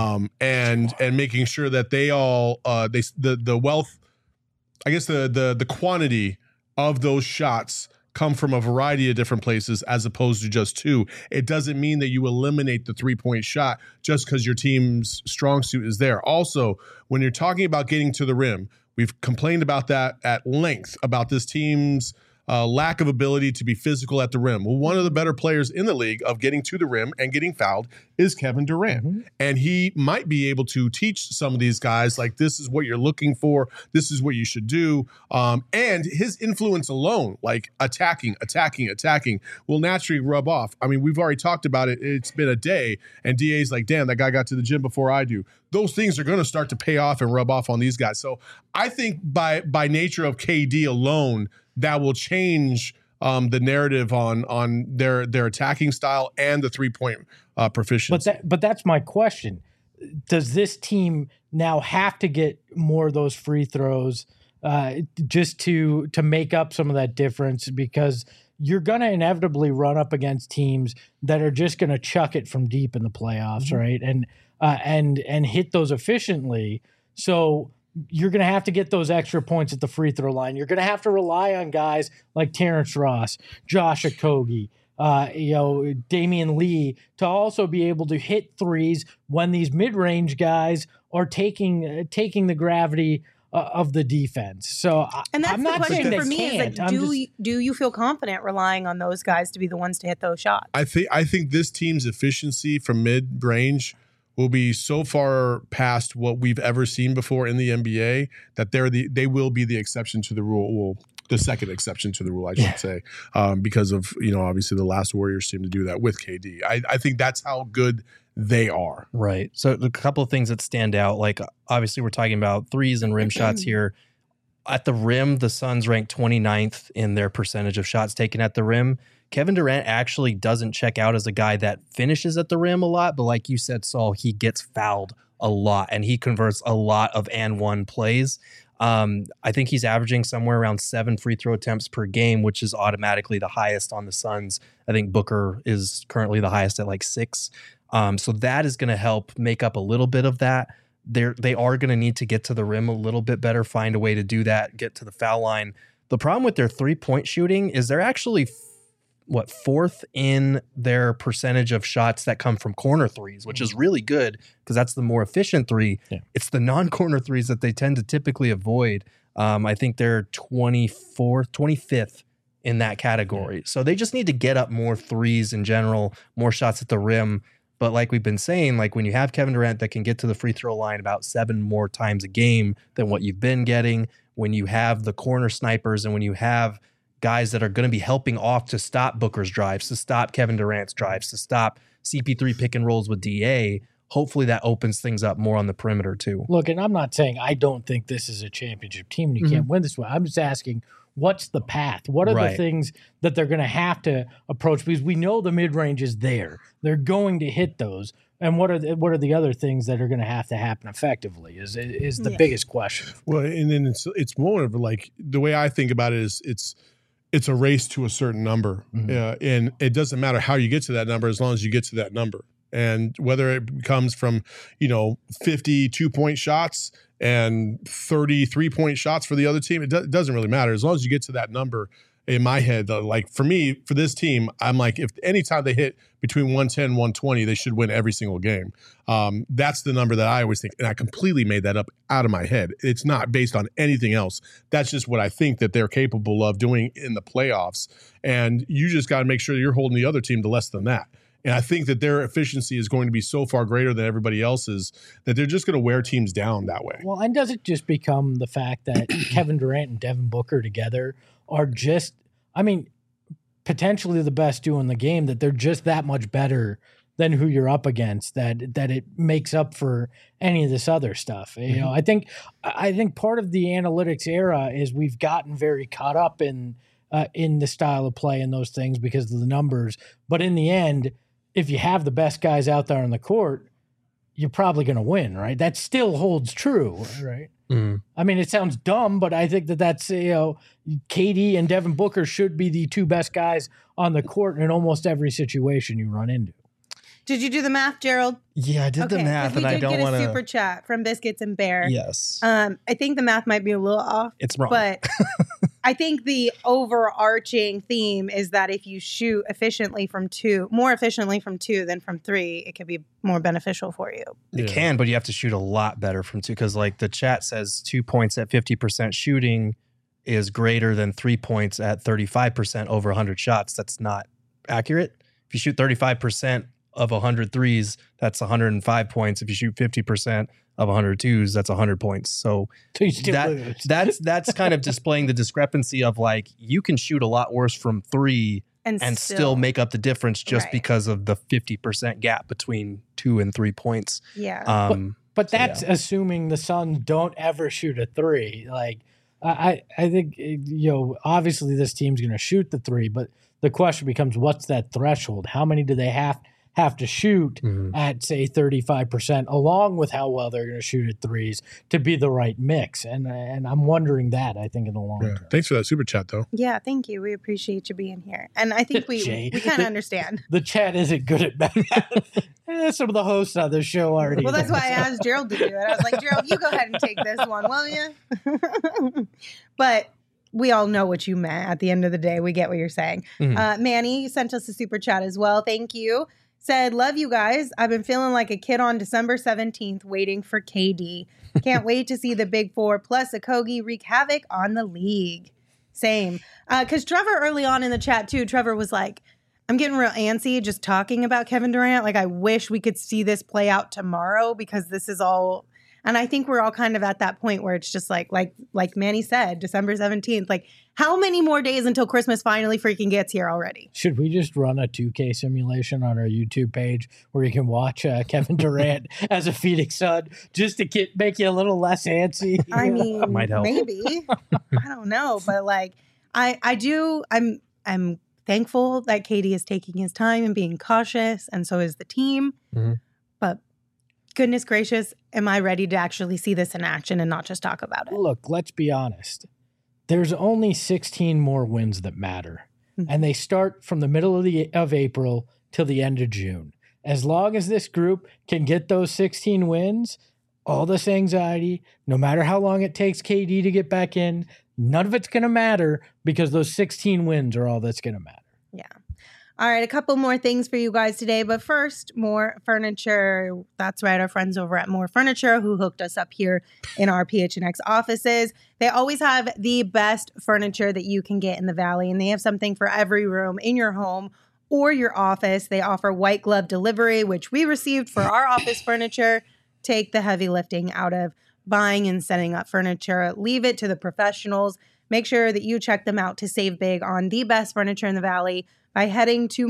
and making sure that they all the wealth, I guess the quantity of those shots come from a variety of different places as opposed to just 2. It doesn't mean that you eliminate the 3-point shot just because your team's strong suit is there. Also, when you're talking about getting to the rim, we've complained about that at length, about this team's lack of ability to be physical at the rim. Well, one of the better players in the league of getting to the rim and getting fouled is Kevin Durant. Mm-hmm. And he might be able to teach some of these guys, like, this is what you're looking for. This is what you should do. And his influence alone, like attacking, will naturally rub off. I mean, we've already talked about it. It's been a day, and DA's like, damn, that guy got to the gym before I do. Those things are going to start to pay off and rub off on these guys. So I think by nature of KD alone, that will change the narrative on their attacking style and the 3-point proficiency. But that's my question. does this team now have to get more of those free throws just to make up some of that difference? Because you're going to inevitably run up against teams that are just going to chuck it from deep in the playoffs, right? And hit those efficiently. So you're going to have to get those extra points at the free throw line. You're going to have to rely on guys like Terrence Ross, Josh Okogie, Damian Lee to also be able to hit threes when these mid-range guys are taking the gravity of the defense. So and that's I'm the not question saying for me is like, do you feel confident relying on those guys to be the ones to hit those shots? I think this team's efficiency from mid-range will be so far past what we've ever seen before in the NBA that they will be the exception to the rule. Well, the second exception to the rule, I should say, because of obviously the last Warriors team to do that with KD. I think that's how good they are. Right. So a couple of things that stand out, like obviously we're talking about threes and rim shots here. At the rim, the Suns rank 29th in their percentage of shots taken at the rim. Kevin Durant actually doesn't check out as a guy that finishes at the rim a lot, but like you said, Saul, he gets fouled a lot and he converts a lot of and one plays. I think he's averaging somewhere around 7 free throw attempts per game, which is automatically the highest on the Suns. I think Booker is currently the highest at like 6. So that is going to help make up a little bit of that. They are going to need to get to the rim a little bit better, find a way to do that, get to the foul line. The problem with their 3-point shooting is they're actually fourth in their percentage of shots that come from corner threes, which is really good because that's the more efficient three. Yeah. It's the non-corner threes that they tend to typically avoid. I think they're 25th in that category. So they just need to get up more threes in general, more shots at the rim. But like we've been saying, like when you have Kevin Durant that can get to the free throw line about 7 more times a game than what you've been getting, when you have the corner snipers and when you have guys that are going to be helping off to stop Booker's drives, to stop Kevin Durant's drives, to stop CP3 pick and rolls with DA, hopefully that opens things up more on the perimeter too. Look, and I'm not saying I don't think this is a championship team and you can't win this way. I'm just asking, what's the path? What are the things that they're going to have to approach? Because we know the mid-range is there. They're going to hit those. And what are the other things that are going to happen effectively is the biggest question. Well, and then it's more of like the way I think about it is it's a race to a certain number. And it doesn't matter how you get to that number as long as you get to that number. And whether it comes from, 50 2-point shots and 30 3-point shots for the other team, it doesn't really matter. As long as you get to that number, in my head, like for me, for this team, I'm like, if anytime they hit between 110 and 120, they should win every single game. That's the number that I always think. And I completely made that up out of my head. It's not based on anything else. That's just what I think that they're capable of doing in the playoffs. And you just got to make sure you're holding the other team to less than that. And I think that their efficiency is going to be so far greater than everybody else's that they're just going to wear teams down that way. Well, and does it just become the fact that Kevin Durant and Devin Booker together are just, potentially the best duo in the game, that they're just that much better than who you're up against, that it makes up for any of this other stuff. I think part of the analytics era is we've gotten very caught up in the style of play and those things because of the numbers. But in the end, if you have the best guys out there on the court, you're probably going to win, right? That still holds true, right? It sounds dumb, but I think that's, KD and Devin Booker should be the 2 best guys on the court in almost every situation you run into. Did you do the math, Gerald? Yeah, I did the math, and I don't want to. We did get a super chat from Biscuits and Bear. Yes. I think the math might be a little off. It's wrong. But I think the overarching theme is that if you shoot more efficiently from 2 than from 3, it could be more beneficial for you. It can, but you have to shoot a lot better from 2 because like the chat says 2 points at 50% shooting is greater than 3 points at 35% over 100 shots. That's not accurate. If you shoot 35% of 100 threes, that's 105 points. If you shoot 50% of 102s, that's 100 points. So you still lose. that's kind of displaying the discrepancy of like you can shoot a lot worse from 3 and still make up the difference just because of the 50% gap between 2 and 3 points. Yeah. But that's assuming the Suns don't ever shoot a 3. Like I think obviously this team's going to shoot the 3, but the question becomes what's that threshold? How many do they have have to shoot at, say, 35%, along with how well they're going to shoot at threes to be the right mix. And I'm wondering that, I think, in the long term. Thanks for that super chat, though. Yeah, thank you. We appreciate you being here. And I think we kind of understand. The chat isn't good at math. Some of the hosts on the show already. Well, that's why I asked Gerald to do it. I was like, Gerald, you go ahead and take this one, will you? But we all know what you meant. At the end of the day, we get what you're saying. Manny sent us a super chat as well. Thank you. Said, love you guys. I've been feeling like a kid on December 17th waiting for KD. Can't wait to see the Big Four plus Okogie wreak havoc on the league. Same. Because Trevor early on in the chat too, Trevor was like, I'm getting real antsy just talking about Kevin Durant. Like, I wish we could see this play out tomorrow because this is all... And I think we're all kind of at that point where it's just like Manny said, December 17th. Like, how many more days until Christmas finally freaking gets here already? Should we just run a 2K simulation on our YouTube page where you can watch Kevin Durant as a Phoenix Sun just to make you a little less antsy? I mean, might help. Maybe. I don't know. But like, I'm thankful that KD is taking his time and being cautious, and so is the team. But goodness gracious, am I ready to actually see this in action and not just talk about it? Look, let's be honest. There's only 16 more wins that matter. And they start from the middle of April till the end of June. As long as this group can get those 16 wins, all this anxiety, no matter how long it takes KD to get back in, none of it's going to matter because those 16 wins are all that's going to matter. Yeah. All right, a couple more things for you guys today. But first, More Furniture. That's right, our friends over at More Furniture who hooked us up here in our PHNX offices. They always have the best furniture that you can get in the Valley, and they have something for every room in your home or your office. They offer white glove delivery, which we received for our office furniture. Take the heavy lifting out of buying and setting up furniture. Leave it to the professionals. Make sure that you check them out to save big on the best furniture in the Valley by heading to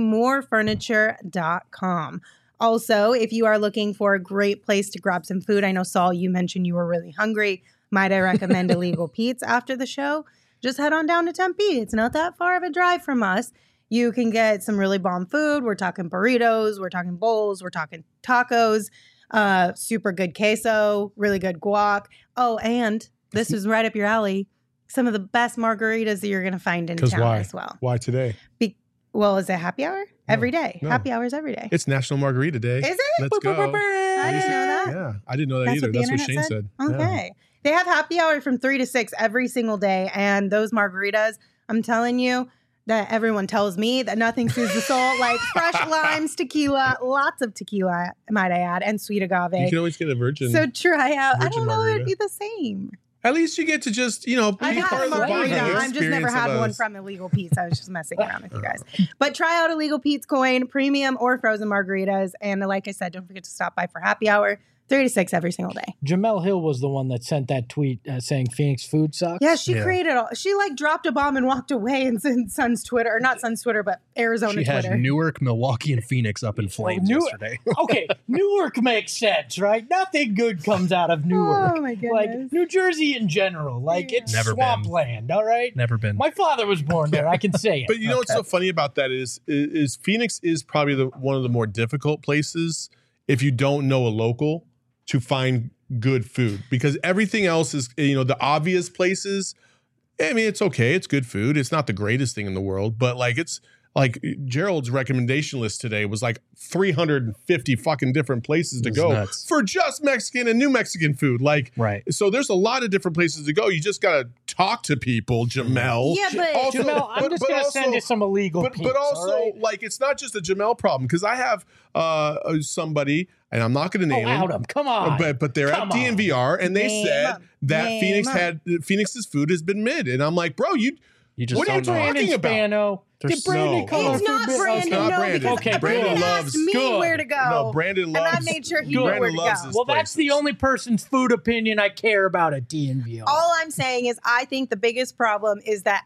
morefurniture.com. Also, if you are looking for a great place to grab some food, I know, Saul, you mentioned you were really hungry. Might I recommend Illegal Pete's after the show? Just head on down to Tempe. It's not that far of a drive from us. You can get some really bomb food. We're talking burritos. We're talking bowls. We're talking tacos. Super good queso. Really good guac. Oh, and this is right up your alley. Some of the best margaritas that you're going to find in town as well. Why today? Well, is it happy hour? Every day. No. Happy hours every day. It's National Margarita Day. Is it? Let's go. I didn't know that. Yeah, I didn't know that either. That's what Shane said. Okay. Yeah. They have happy hour from 3 to 6 every single day. And those margaritas, I'm telling you, that everyone tells me that nothing soothes the soul like fresh limes, tequila, lots of tequila, might I add, and sweet agave. You can always get a virgin. So try out. I don't know if margarita. it'd be the same. At least you get to just, be I've part had of the a bonding margarita. I've just never had one from Illegal Pete's. I was just messing around with you guys. But try out Illegal Pete's Coin, premium or frozen margaritas. And like I said, don't forget to stop by for happy hour. 3 to 6 every single day. Jamel Hill was the one that sent that tweet saying Phoenix food sucks. Yeah, she created all. She dropped a bomb and walked away and sent Sun's Twitter, or not Sun's Twitter, but Arizona Twitter. She had Newark, Milwaukee, and Phoenix up in flames yesterday. Okay, Newark makes sense, right? Nothing good comes out of Newark. Oh my goodness. Like New Jersey in general, it's Never swampland. All right, never been. My father was born there. I can say it. But you know what's so funny about that is Phoenix is probably one of the more difficult places if you don't know a local to find good food, because everything else is, the obvious places. I mean, it's okay. It's good food. It's not the greatest thing in the world, but it's like Gerald's recommendation list today was like 350 fucking different places to go for just Mexican and New Mexican food. Right. So there's a lot of different places to go. You just got to talk to people, Jamel. Yeah, but also, Jamel, I'm just going to send you some illegal But also, it's not just a Jamel problem, because I have somebody, and I'm not going to name him. Come on. But they're at DNVR, and they said that Phoenix's food has been mid. And I'm like, bro, you just what are you talking about? Did Brandon come It's not Brandon. No, because Brandon asked me where to go. No, Brandon loves. And I made sure he knew where to go. Well, that's the only person's food opinion I care about at DNVR. All I'm saying is I think the biggest problem is that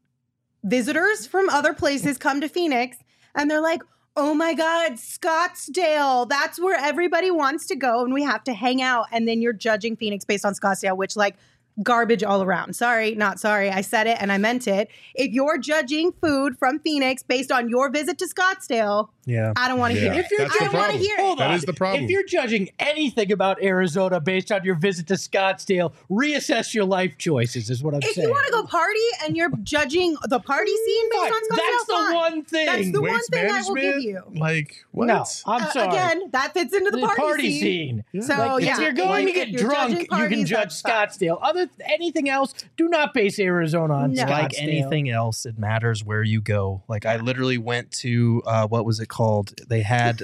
visitors from other places come to Phoenix and they're like, oh my God, Scottsdale. That's where everybody wants to go and we have to hang out. And then you're judging Phoenix based on Scottsdale, which garbage all around. Sorry, not sorry. I said it and I meant it. If you're judging food from Phoenix based on your visit to Scottsdale, Yeah. I don't want to hear it. If you're That's the I don't want to problem. hear Hold it. That on. is the problem. If you're judging anything about Arizona based on your visit to Scottsdale, reassess your life choices, is what I'm If saying. you want to go party and you're judging the party scene based Fine. on Scottsdale, That's the fine. one thing. That's the one Waste thing I will give management? you. Like, what? No, I'm sorry. Again, that fits into the party, scene. So Like, yeah, if you're going to if get you're drunk, judging you can parties, judge that's fine. Scottsdale. Anything else, do not base Arizona on No. Scottsdale. Like anything else, it matters where you go. Like I literally went to what was it called? They had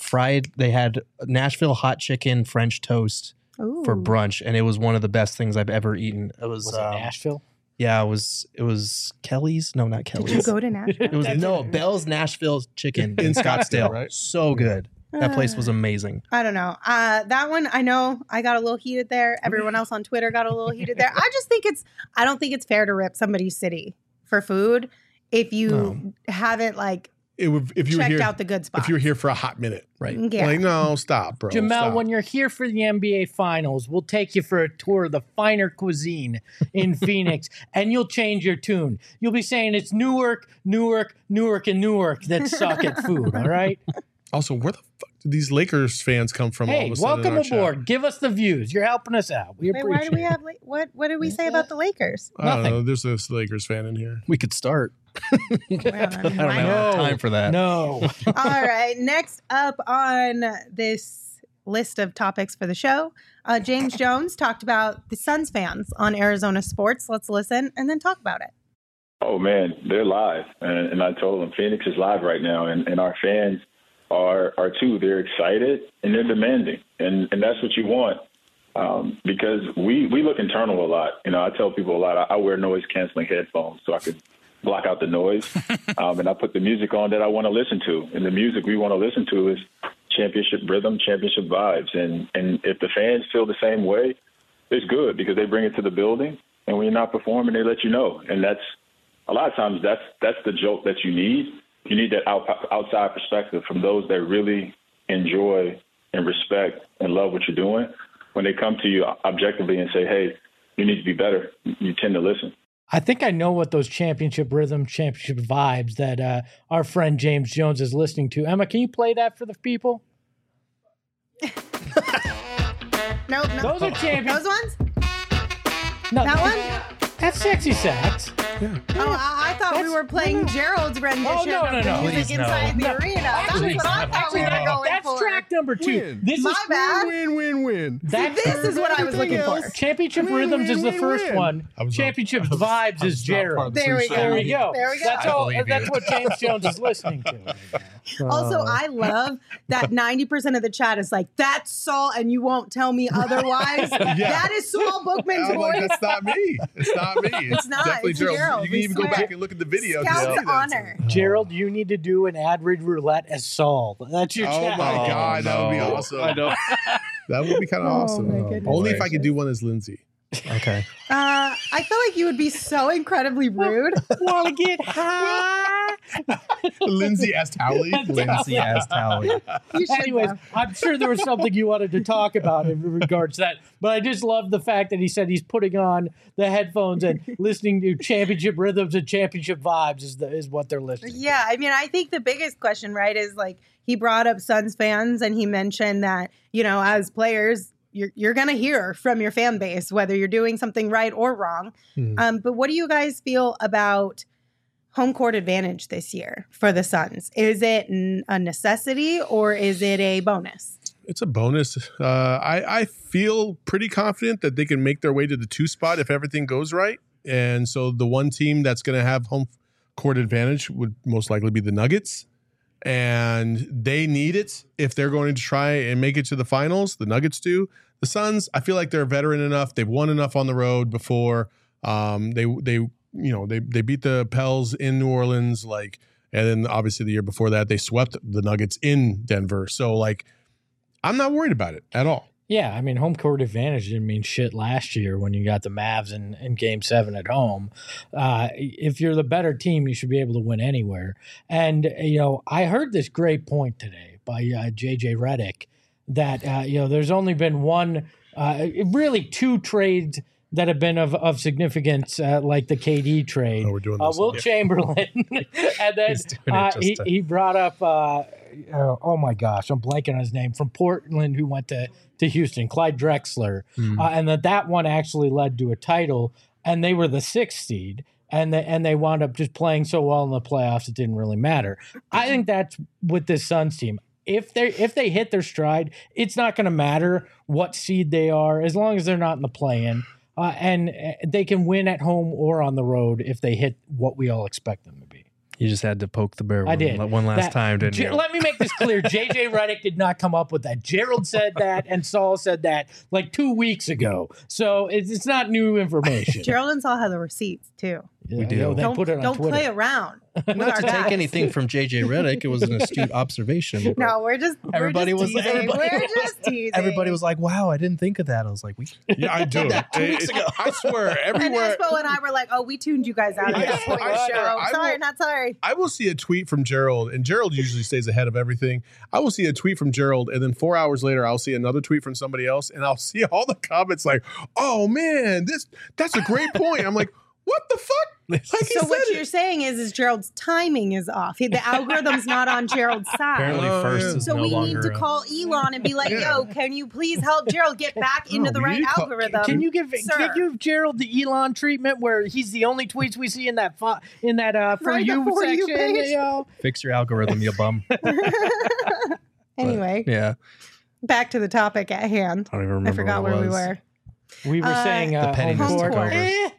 Nashville hot chicken French toast Ooh. for brunch, and it was one of the best things I've ever eaten. It was, Was it Nashville? yeah, it was Kelly's. No, not Kelly's. Did you go to Nashville? It was Bell's Nashville chicken in In Scottsdale. Scottsdale, right? So good. That place was amazing. I don't know. That one, I know I got a little heated there. Everyone else on Twitter got a little heated there. I just think I don't think it's fair to rip somebody's city for food if you haven't like If you were checked here, out the good spots. if you were here for a hot minute, right? Yeah. Like, no, stop, bro. Jamel, stop. when you're here for the NBA Finals, we'll take you for a tour of the finer cuisine in Phoenix, and you'll change your tune. You'll be saying it's Newark, Newark, Newark, and Newark that suck at food, all right? Also, where the fuck did these Lakers fans come from? all Hey, of a sudden in welcome our chat? aboard. Give us the views. You're helping us out. We Wait, appreciate why do we it. have what did we say about the Lakers? I don't Nothing. know. There's this Lakers fan in here. We could start. Well, I I mean, don't why have not? No. time for that. No. All right. Next up on this list of topics for the show, James Jones talked about the Suns fans on Arizona sports. Let's listen and then talk about it. Oh, man, they're live. And I told them Phoenix is live right now. And our fans are too. They're excited and they're demanding. And that's what you want because we look internal a lot. You know, I tell people a lot, I wear noise-canceling headphones so I could block out the noise. And I put the music on that I want to listen to. And the music we want to listen to is championship rhythm, championship vibes. And if the fans feel the same way, it's good because they bring it to the building. And when you're not performing, they let you know. And that's a lot of times that's the joke that you need. You need that outside perspective from those that really enjoy and respect and love what you're doing. When they come to you objectively and say, hey, you need to be better, you tend to listen. I think I know what those championship rhythm, championship vibes that our friend James Jones is listening to. Emma, can you play that for the people? No, Those are champions. those ones. No, That one. That's Sexy Sax. Oh, I thought we were playing Gerald's rendition Oh, no, of no, the no. music Please, no. inside the arena. That's Please, what I no. thought we were going That's for. track number 2. Win. This My is bad. Win. That's This is what I was looking for. Championship Win, Rhythms is the win, first win. one. I was Championship not- Vibes I is was not part Gerald. of the There we pre-show. go. There we go. There we go. That's I all. believe That's you. what James Jones is listening to. right now. Also, I love that 90% of the chat is like, that's Saul, and you won't tell me otherwise. That is Saul Bookman's I'm like, voice. that's not me. It's not me. It's not. definitely It's Gerald. Gerald. You can We even go swear. back and look at the video. to Scout's see that. honor. Gerald, you need to do an ad read roulette as Saul. That's your Oh challenge. my God, that would be no. awesome. I know. That would be kind of Oh, awesome. my goodness Only if I could gracious. do one as Lindsay. Okay. I feel like you would be so incredibly rude. Want to get high? Lindsay as Towley. Lindsay as Tally. You should Anyways, though. I'm sure there was something you wanted to talk about in regards to that. But I just love the fact that he said he's putting on the headphones and listening to championship rhythms and championship vibes is what they're listening to. Yeah, I mean, I think the biggest question, right, is like he brought up Suns fans and he mentioned that, you know, as players, you're going to hear from your fan base, whether you're doing something right or wrong. But what do you guys feel about home court advantage this year for the Suns? Is it a necessity or is it a bonus? It's a bonus. I feel pretty confident that they can make their way to the 2 spot if everything goes right. And so the one team that's going to have home court advantage would most likely be the Nuggets. And they need it if they're going to try and make it to the finals. The Nuggets do. The Suns, I feel like they're veteran enough. They've won enough on the road before. They beat the Pels in New Orleans, and then obviously the year before that they swept the Nuggets in Denver. So I'm not worried about it at all. Yeah, I mean, home court advantage didn't mean shit last year when you got the Mavs in Game 7 at home. If you're the better team, you should be able to win anywhere. And, I heard this great point today by J.J. Redick that, there's only been really 2 trades that have been of significance, like the KD trade. Oh, we're doing this. Wilt Chamberlain. And then He's doing it just to- he brought up, oh my gosh, I'm blanking on his name, from Portland who went to Houston, Clyde Drexler, and that one actually led to a title, and they were the 6th seed. And they wound up just playing so well in the playoffs it didn't really matter. I think that's with this Suns team. If they hit their stride, it's not going to matter what seed they are as long as they're not in the play-in, and they can win at home or on the road if they hit what we all expect them to be. You just had to poke the bear I did. one last time, didn't you? Let me make this clear. JJ Redick did not come up with that. Gerald said that, and Saul said that like 2 weeks ago. So it's not new information. Gerald and Saul have the receipts too. We do. They put it on Don't Twitter. play around. Not to take anything from JJ Redick, it was an astute observation. No, we're just teasing. Everybody was like, "Wow, I didn't think of that." I was like, Yeah, I do. that 2 weeks ago. I swear, And everywhere. Espo and I were like, "Oh, we tuned you guys out of this point of the show. Sorry, not sorry." I will see a tweet from Gerald, and Gerald usually stays ahead of everything. I will see a tweet from Gerald, and then 4 hours later, I'll see another tweet from somebody else, and I'll see all the comments like, "Oh man, that's a great point." I'm like, "What the fuck?" Like So what you're saying is Gerald's timing is off. The algorithm's not on Gerald's side. Apparently, first is So no we need longer to call Elon and be like, "Yo, can you please help Gerald get back into the we right need to call- algorithm?" Can you give Gerald the Elon treatment where he's the only tweets we see in that for Right, you the For You section? page. You know? fix your algorithm, you bum. Anyway, Yeah, back to the topic at hand. I don't even remember. I forgot what it where we was. were. We were saying The pettiness home took court. over.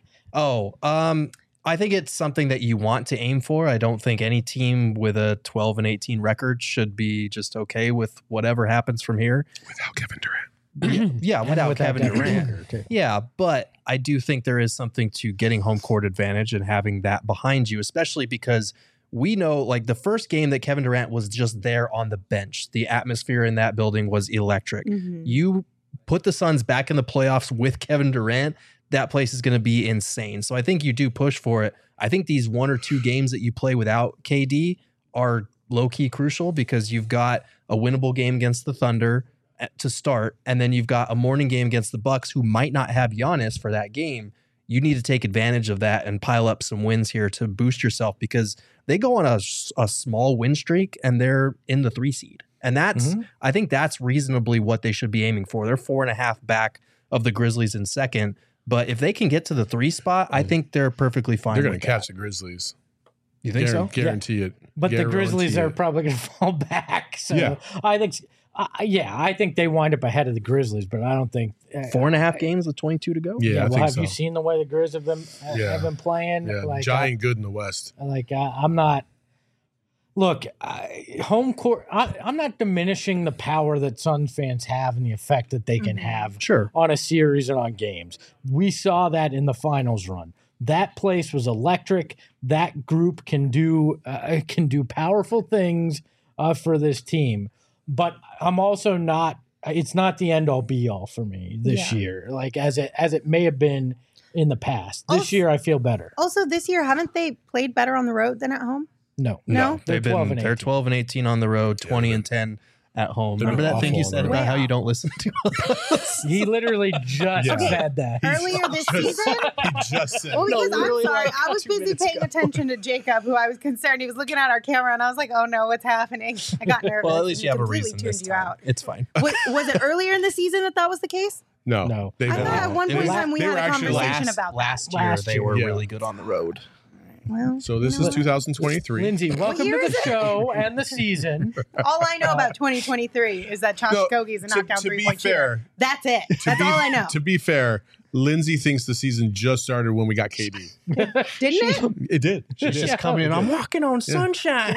I think it's something that you want to aim for. I don't think any team with a 12-18 record should be just okay with whatever happens from here. without Kevin Durant. Yeah, without Kevin Devin Durant. Booker, too. Yeah, but I do think there is something to getting home court advantage and having that behind you, especially because we know like the first game that Kevin Durant was just there on the bench. The atmosphere in that building was electric. Mhm. You put the Suns back in the playoffs with Kevin Durant, that place is going to be insane. So I think you do push for it. I think these 1 or 2 games that you play without KD are low-key crucial because you've got a winnable game against the Thunder to start, and then you've got a morning game against the Bucks who might not have Giannis for that game. You need to take advantage of that and pile up some wins here to boost yourself because they go on a small win streak and they're in the 3 seed. And that's, I think that's reasonably what they should be aiming for. They're 4.5 back of the Grizzlies in second. But if they can get to the 3 spot, I think they're perfectly fine. They're going with to catch that. the Grizzlies. You think so? Guarantee it. But the Guarantee Grizzlies are it. probably going to fall back. So Yeah. I think, I think they wind up ahead of the Grizzlies, but I don't think 4.5 games with 22 to go. Yeah, I well, think have so. you seen the way the Grizz have been playing? Yeah, Like, giant good in the West. I'm not. Look, home court. I'm not diminishing the power that Suns fans have and the effect that they can have Sure. on a series and on games. We saw that in the finals run. That place was electric. That group can do powerful things for this team. But I'm also not. It's not the end all be all for me this year. Like as it may have been in the past. This year, I feel better. Also, this year, haven't they played better on the road than at home? No. No? They're 12 and 18 on the road, 20 and 10 at home. they're Remember that thing you awful said on the about road. how you don't listen to us? He literally just Yeah. said that. Earlier this season? He just said Well, it. because literally, I'm sorry, like, I was 2 busy minutes paying ago. attention to Jacob, who I was concerned. He was looking at our camera, and I was like, "Oh no, what's happening?" I got nervous. Well, at least and you have a completely reason tuned this you time. out. It's fine. Was it earlier in the season that was the case? No. No. They I thought at one It point in was- time we they had were a actually conversation about that. Last year, Last they year. were Yeah. really good on the road. Well, So this you know is what? 2023. Lindsay, welcome year to is the it? show and the season. All I know about 2023 is that Josh Okogie is a knockdown to be three-point shooter. fair, That's it. That's all I know. To be fair, Lindsay thinks the season just started when we got KD. Didn't it? It did. She She's did. just coming in. I'm walking on sunshine.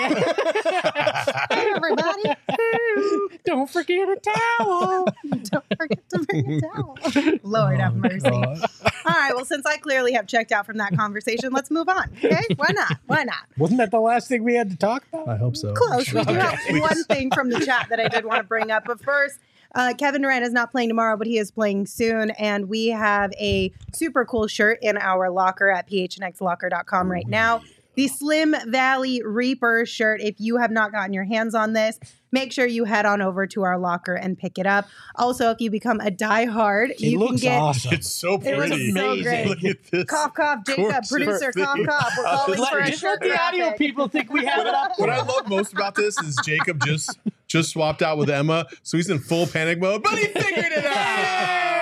Hey, everybody. Don't forget a towel. Don't forget to bring a towel. Lord have mercy. All right. Well, since I clearly have checked out from that conversation, let's move on. Okay? Why not? Why not? Wasn't that the last thing we had to talk about? I hope so. Close. We do have one thing from the chat that I did want to bring up. But first, Kevin Durant is not playing tomorrow, but he is playing soon. And we have a super cool shirt in our locker at phnxlocker.com right now. the Slim Valley Reaper shirt. If you have not gotten your hands on this, make sure you head on over to our locker and pick it up. Also, if you become a diehard, you can get awesome. It's so pretty. It looks so great. Look at this. Cough, Jacob, gorgeous producer, thing. cough. We're calling for a Just let shirt the audio graphic. people think we have it up. What I love most about this is Jacob just swapped out with Emma, so he's in full panic mode, but he figured it out.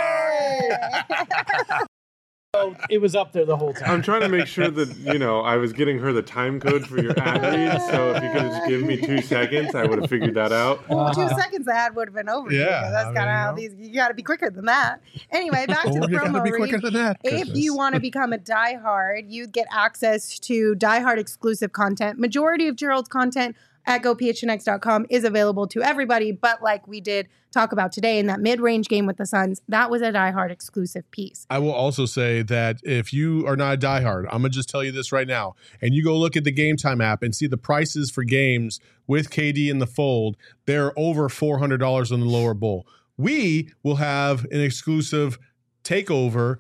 So it was up there the whole time. I'm trying to make sure that, I was getting her the time code for your ad read. So if you could have just given me 2 seconds, I would have figured that out. 2 seconds, the ad would have been over. Yeah, That's kind of how these. You got to be quicker than that. Anyway, back to the You gotta promo be quicker read. than that. If you want to become a diehard, you get access to diehard exclusive content. Majority of Gerald's content at gophnx.com is available to everybody, but like we did talk about today in that mid-range game with the Suns, that was a diehard exclusive piece. I will also say that if you are not a diehard, I'm going to just tell you this right now, and you go look at the Game Time app and see the prices for games with KD in the fold, they're over $400 on the lower bowl. We will have an exclusive takeover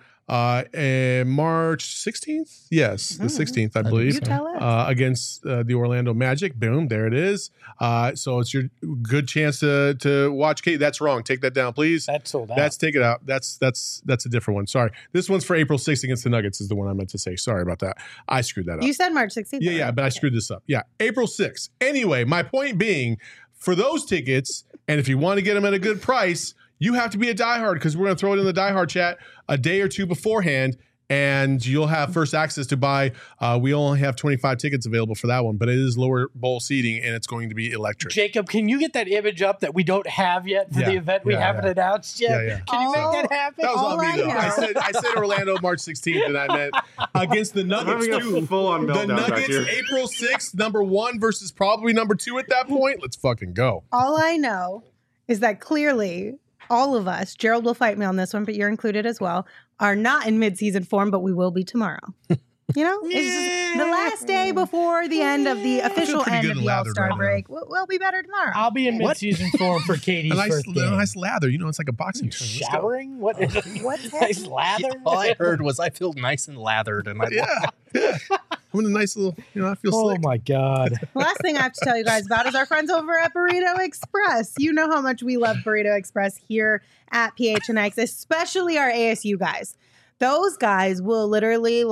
March 16th? Yes, the 16th, I believe. You tell us. Against the Orlando Magic. Boom, there it is. So it's your good chance to watch Kate. That's wrong. Take that down, please. That's sold out. Take it out. That's a different one. Sorry. This one's for April 6th against the Nuggets is the one I meant to say. Sorry about that. I screwed that up. You said March 16th. Yeah, but I screwed this up. Yeah, April 6th. Anyway, my point being, for those tickets, and if you want to get them at a good price, you have to be a diehard because we're going to throw it in the diehard chat a day or two beforehand, and you'll have first access to buy. We only have 25 tickets available for that one, but it is lower bowl seating, and it's going to be electric. Jacob, can you get that image up that we don't have yet for the event we haven't announced yet? Yeah. Can you make that happen? That was on me, though. I said Orlando March 16th, and I meant against the Nuggets, too. Full-on The meltdown back Nuggets, here. April 6th, number 1 versus probably number 2 at that point. Let's fucking go. All I know is that clearly all of us, Gerald will fight me on this one, but you're included as well, are not in mid-season form, but we will be tomorrow. You know, it's just the last day before the end of the official pretty end good of and the lathered All-Star right break. We'll be better tomorrow. I'll be in mid-season form for Katie's A birthday. nice lather. You know, it's like a boxing term. Let's go. Showering? What? What's Nice lather? All I heard was I feel nice and lathered, and I Yeah. I'm in a nice little, I feel Oh slick. my God. The last thing I have to tell you guys about is our friends over at Burrito Express. You know how much we love Burrito Express here at PHNX, especially our ASU guys. Those guys will literally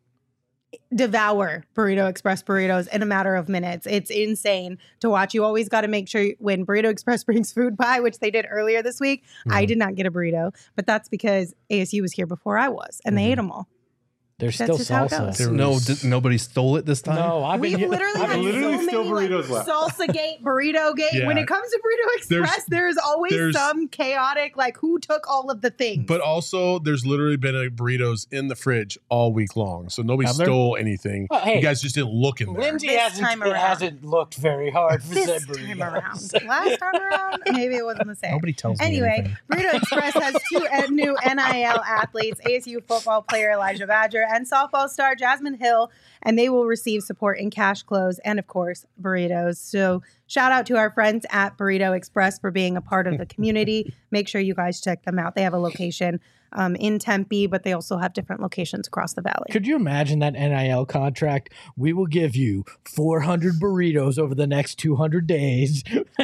devour Burrito Express burritos in a matter of minutes. It's insane to watch. You always got to make sure when Burrito Express brings food by, which they did earlier this week. I did not get a burrito, but that's because ASU was here before I was, and they ate them all. There's That's still just how it salsa. goes. nobody stole it this time. No, I've been We've literally had literally so still many burritos left. salsa gate, burrito gate. Yeah. When it comes to Burrito Express, there's always some chaotic, who took all of the things. But also, there's literally been burritos in the fridge all week long. So nobody Have there? stole anything. Hey, you guys just didn't look in there. Lindsay This time around. hasn't looked very hard for this said time burritos. around, last time around, maybe it wasn't the same. Nobody tells me Anyway, anything. Burrito Express has 2 new NIL athletes, ASU football player Elijah Badger and softball star Jasmine Hill, and they will receive support in cash, clothes, and of course, burritos. So shout out to our friends at Burrito Express for being a part of the community. Make sure you guys check them out. They have a location in Tempe, but they also have different locations across the valley. Could you imagine that NIL contract? We will give you 400 burritos over the next 200 days.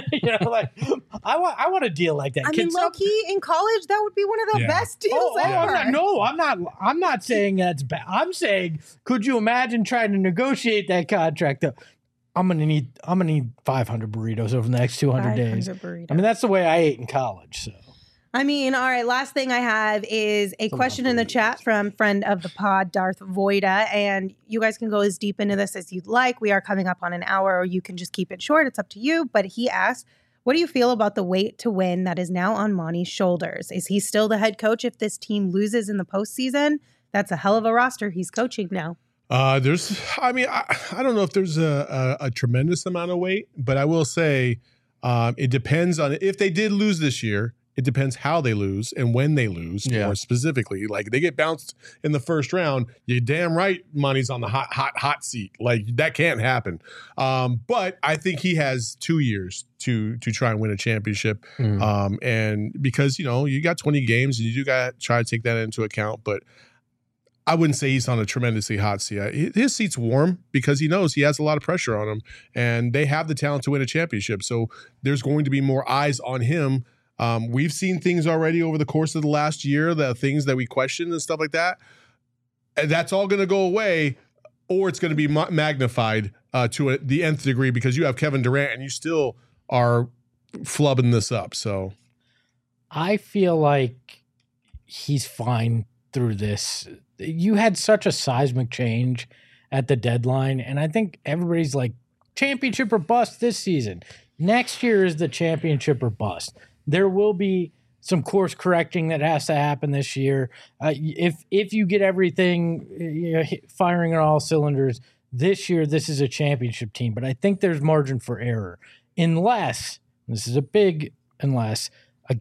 I want a deal like that. I mean, low key in college, that would be one of the best deals ever. I'm not saying that's bad. I'm saying, could you imagine trying to negotiate that contract? I'm gonna need 500 burritos over the next 200 days. Burritos. I mean, that's the way I ate in college. So. I mean, all right, last thing I have is a question in the chat from friend of the pod, Darth Voida, and you guys can go as deep into this as you'd like. We are coming up on an hour, or you can just keep it short. It's up to you. But he asked, what do you feel about the weight to win that is now on Monty's shoulders? Is he still the head coach if this team loses in the postseason? That's a hell of a roster he's coaching now. I don't know if there's a tremendous amount of weight, but I will say it depends on if they did lose this year. It depends how they lose and when they lose, more specifically. Like, they get bounced in the first round, you're damn right money's on the hot seat. Like, that can't happen. But I think he has 2 years to try and win a championship. And because, you got 20 games and you do got to try to take that into account. But I wouldn't say he's on a tremendously hot seat. His seat's warm because he knows he has a lot of pressure on him, and they have the talent to win a championship. So there's going to be more eyes on him. We've seen things already over the course of the last year, the things that we questioned and stuff like that. And that's all going to go away, or it's going to be magnified to the nth degree because you have Kevin Durant and you still are flubbing this up. So I feel like he's fine through this. You had such a seismic change at the deadline, and I think everybody's like, championship or bust this season. Next year is the championship or bust. There will be some course correcting that has to happen this year. If you get everything firing on all cylinders this year, this is a championship team. But I think there's margin for error unless, this is a big unless, if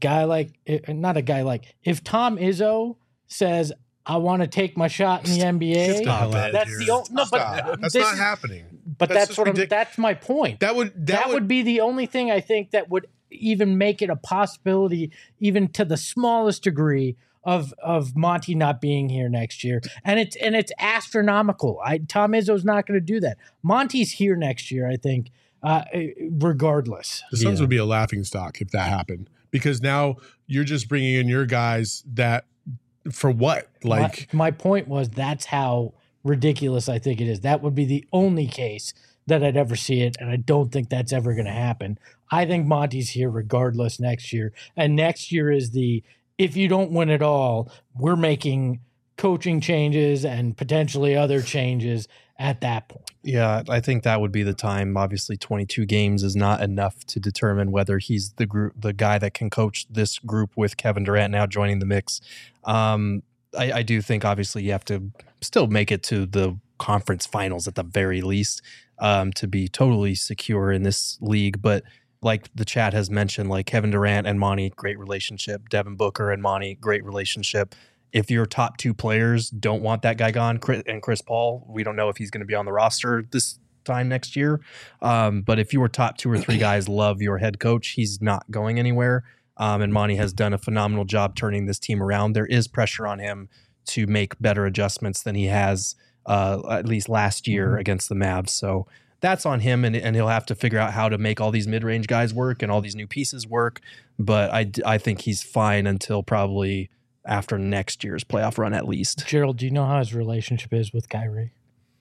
Tom Izzo says, I want to take my shot in the NBA. That's not happening. But that's my point. That would be the only thing I think that would even make it a possibility, even to the smallest degree, of Monty not being here next year. And it's astronomical. Tom Izzo's not going to do that. Monty's here next year, I think, regardless. The Suns would be a laughingstock if that happened, because now you're just bringing in your guys that. For what? Like my point was, that's how ridiculous I think it is. That would be the only case that I'd ever see it, and I don't think that's ever going to happen. I think Monty's here regardless next year, and next year is if you don't win it all, we're making coaching changes and potentially other changes at that point. Yeah, I think that would be the time. Obviously, 22 games is not enough to determine whether he's the guy that can coach this group with Kevin Durant now joining the mix. I do think, obviously, you have to still make it to the conference finals at the very least to be totally secure in this league. But like the chat has mentioned, like Kevin Durant and Monty, great relationship. Devin Booker and Monty, great relationship. If your top two players don't want that guy gone, Chris Paul, we don't know if he's going to be on the roster this time next year. But if your top two or three guys love your head coach, he's not going anywhere. And Monty has done a phenomenal job turning this team around. There is pressure on him to make better adjustments than he has at least last year against the Mavs. So that's on him, and he'll have to figure out how to make all these mid-range guys work and all these new pieces work. But I think he's fine until probably after next year's playoff run at least. Gerald, do you know how his relationship is with Kyrie?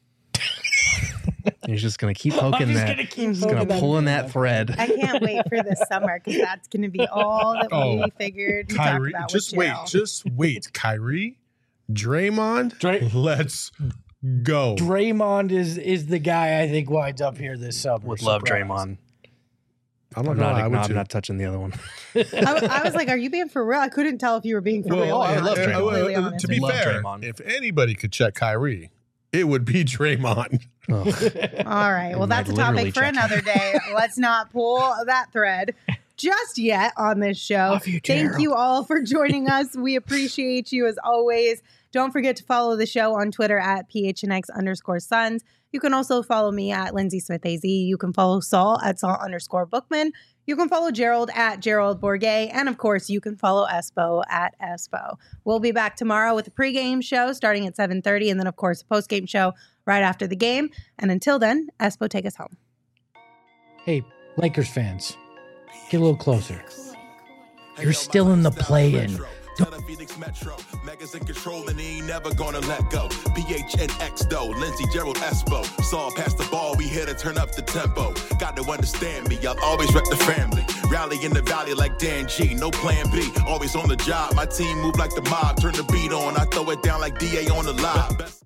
He's just going to keep poking that. He's going to pull in that thread. I can't wait for this summer because that's going to be all that we figured to Kyrie, talk about. Just wait. Kyrie, Draymond, let's go. Draymond is the guy I think winds up here this summer. Would love Draymond. I'm not touching the other one. I was like, are you being for real? I couldn't tell if you were being for real. I love Draymond. To be fair, if anybody could check Kyrie, it would be Draymond. All right. Well, that's a topic for another day. Let's not pull that thread just yet on this show. Thank you all for joining us. We appreciate you as always. Don't forget to follow the show on Twitter at PHNX_Suns. You can also follow me at Lindsay Smith AZ. You can follow Saul at Saul_Bookman. You can follow Gerald at Gerald Bourget. And of course, you can follow Espo at Espo. We'll be back tomorrow with a pregame show starting at 7:30. And then, of course, a postgame show right after the game. And until then, Espo, take us home. Hey, Lakers fans, get a little closer. You're still in the play-in. Phoenix Metro, Megas in control and he ain't never gonna let go. PHNX though, Lindsay, Gerald, Espo. Saw past the ball, we here to turn up the tempo. Got to understand me, I'll always wreck the family. Rally in the valley like Dan G, no plan B. Always on the job, my team move like the mob. Turn the beat on, I throw it down like DA on the live.